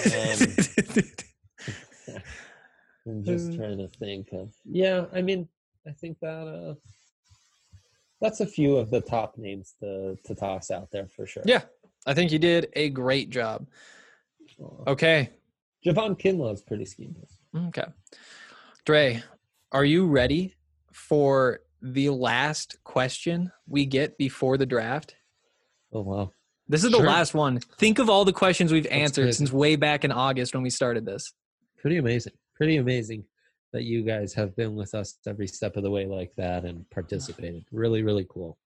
[SPEAKER 3] I'm just trying to think of. Yeah, I mean, I think that that's a few of the top names to toss out there for sure.
[SPEAKER 2] Yeah, I think you did a great job. Okay.
[SPEAKER 3] Javon Kinlaw is pretty schemeless.
[SPEAKER 2] Okay. Dre, are you ready for the last question we get before the draft?
[SPEAKER 3] Oh, wow.
[SPEAKER 2] This is the last one. Think of all the questions we've answered since way back in August when we started this.
[SPEAKER 3] Pretty amazing that you guys have been with us every step of the way like that and participated. Really, really cool.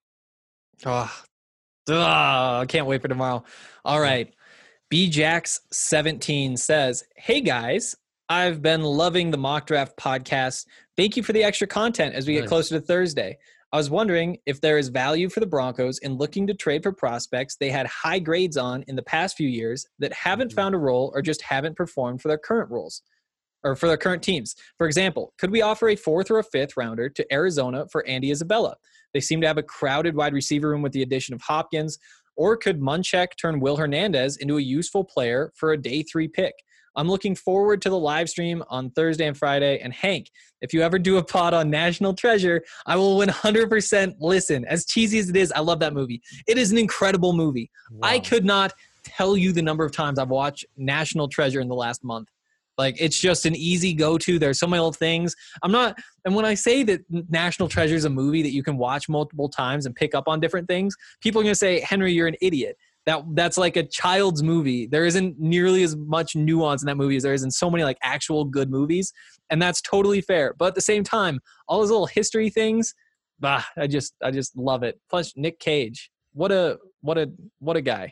[SPEAKER 2] I can't wait for tomorrow. All right. BJax17 says, hey guys, I've been loving the Mock Draft podcast. Thank you for the extra content as we get closer to Thursday. I was wondering if there is value for the Broncos in looking to trade for prospects they had high grades on in the past few years that haven't found a role or just haven't performed for their current roles or for their current teams. For example, could we offer a 4th or a 5th rounder to Arizona for Andy Isabella? They seem to have a crowded wide receiver room with the addition of Hopkins. Or could Munchak turn Will Hernandez into a useful player for a day 3 pick? I'm looking forward to the live stream on Thursday and Friday. And Hank, if you ever do a pod on National Treasure, I will 100% listen. As cheesy as it is, I love that movie. It is an incredible movie. Wow. I could not tell you the number of times I've watched National Treasure in the last month. Like, it's just an easy go-to. There's so many little things. And when I say that National Treasure is a movie that you can watch multiple times and pick up on different things, people are going to say, Henry, you're an idiot. That's like a child's movie. There isn't nearly as much nuance in that movie as there is in so many like actual good movies. And that's totally fair. But at the same time, all those little history things, I just love it. Plus Nick Cage. What a guy.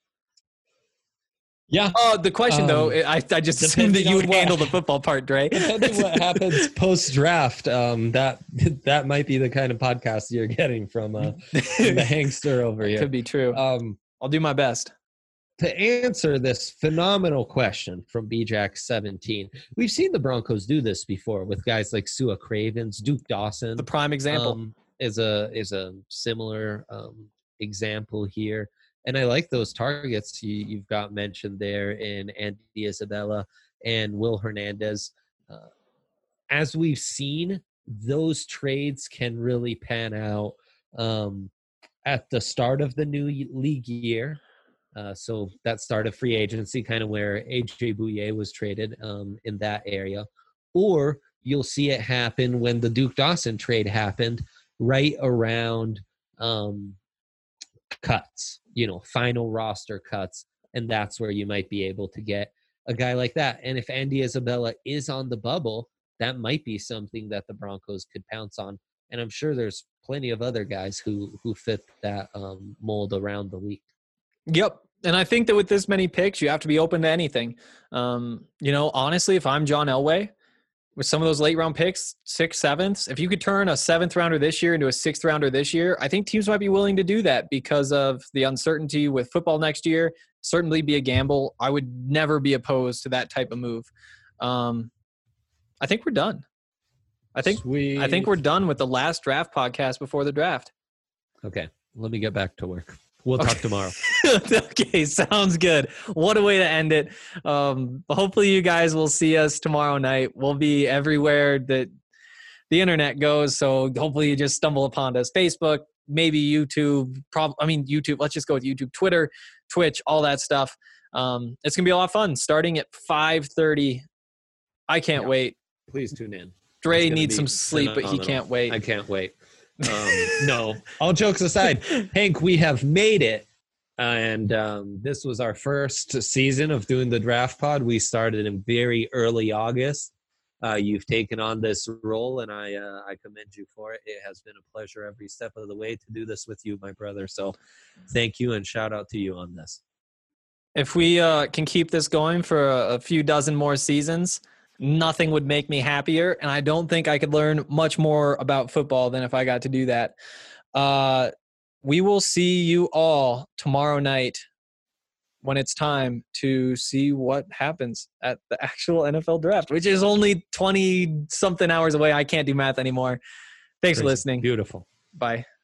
[SPEAKER 3] Yeah.
[SPEAKER 2] The question though, I just assumed that you would handle the football part, Dre.
[SPEAKER 3] Depending what happens post-draft, that might be the kind of podcast you're getting from the Hankster over here.
[SPEAKER 2] Could be true. I'll do my best.
[SPEAKER 3] To answer this phenomenal question from BJack17, we've seen the Broncos do this before with guys like Sua Cravens, Duke Dawson.
[SPEAKER 2] The prime example
[SPEAKER 3] is a similar example here. And I like those targets you've got mentioned there in Andy Isabella and Will Hernandez. As we've seen, those trades can really pan out at the start of the new league year. So that start of free agency, kind of where A.J. Bouye was traded in that area. Or you'll see it happen when the Duke Dawson trade happened, right around cuts, final roster cuts. And that's where you might be able to get a guy like that. And if Andy Isabella is on the bubble, that might be something that the Broncos could pounce on. And I'm sure there's plenty of other guys who fit that mold around the league.
[SPEAKER 2] Yep. And I think that with this many picks, you have to be open to anything. Honestly, if I'm John Elway, with some of those late round picks, 6th, 7th, if you could turn a 7th rounder this year into a 6th rounder this year, I think teams might be willing to do that because of the uncertainty with football next year. Certainly be a gamble. I would never be opposed to that type of move. I think we're done. I think we're done with the last draft podcast before the draft.
[SPEAKER 3] Okay. Let me get back to work. We'll talk tomorrow.
[SPEAKER 2] Okay, sounds good. What a way to end it. Hopefully you guys will see us tomorrow night. We'll be everywhere that the internet goes, so hopefully you just stumble upon us. Facebook, maybe YouTube. YouTube. Let's just go with YouTube, Twitter, Twitch, all that stuff. It's going to be a lot of fun starting at 5:30. I can't wait.
[SPEAKER 3] Please tune in.
[SPEAKER 2] Dre needs some sleep, but he can't wait.
[SPEAKER 3] I can't wait. No, all jokes aside, Hank, we have made it. And this was our first season of doing the draft pod. We started in very early August. You've taken on this role, and I commend you for it. It has been a pleasure every step of the way to do this with you, my brother. So thank you, and shout out to you on this.
[SPEAKER 2] If we can keep this going for a few dozen more seasons, nothing would make me happier, and I don't think I could learn much more about football than if I got to do that. We will see you all tomorrow night when it's time to see what happens at the actual NFL draft, which is only 20-something hours away. I can't do math anymore. Thanks for listening.
[SPEAKER 3] Beautiful.
[SPEAKER 2] Bye.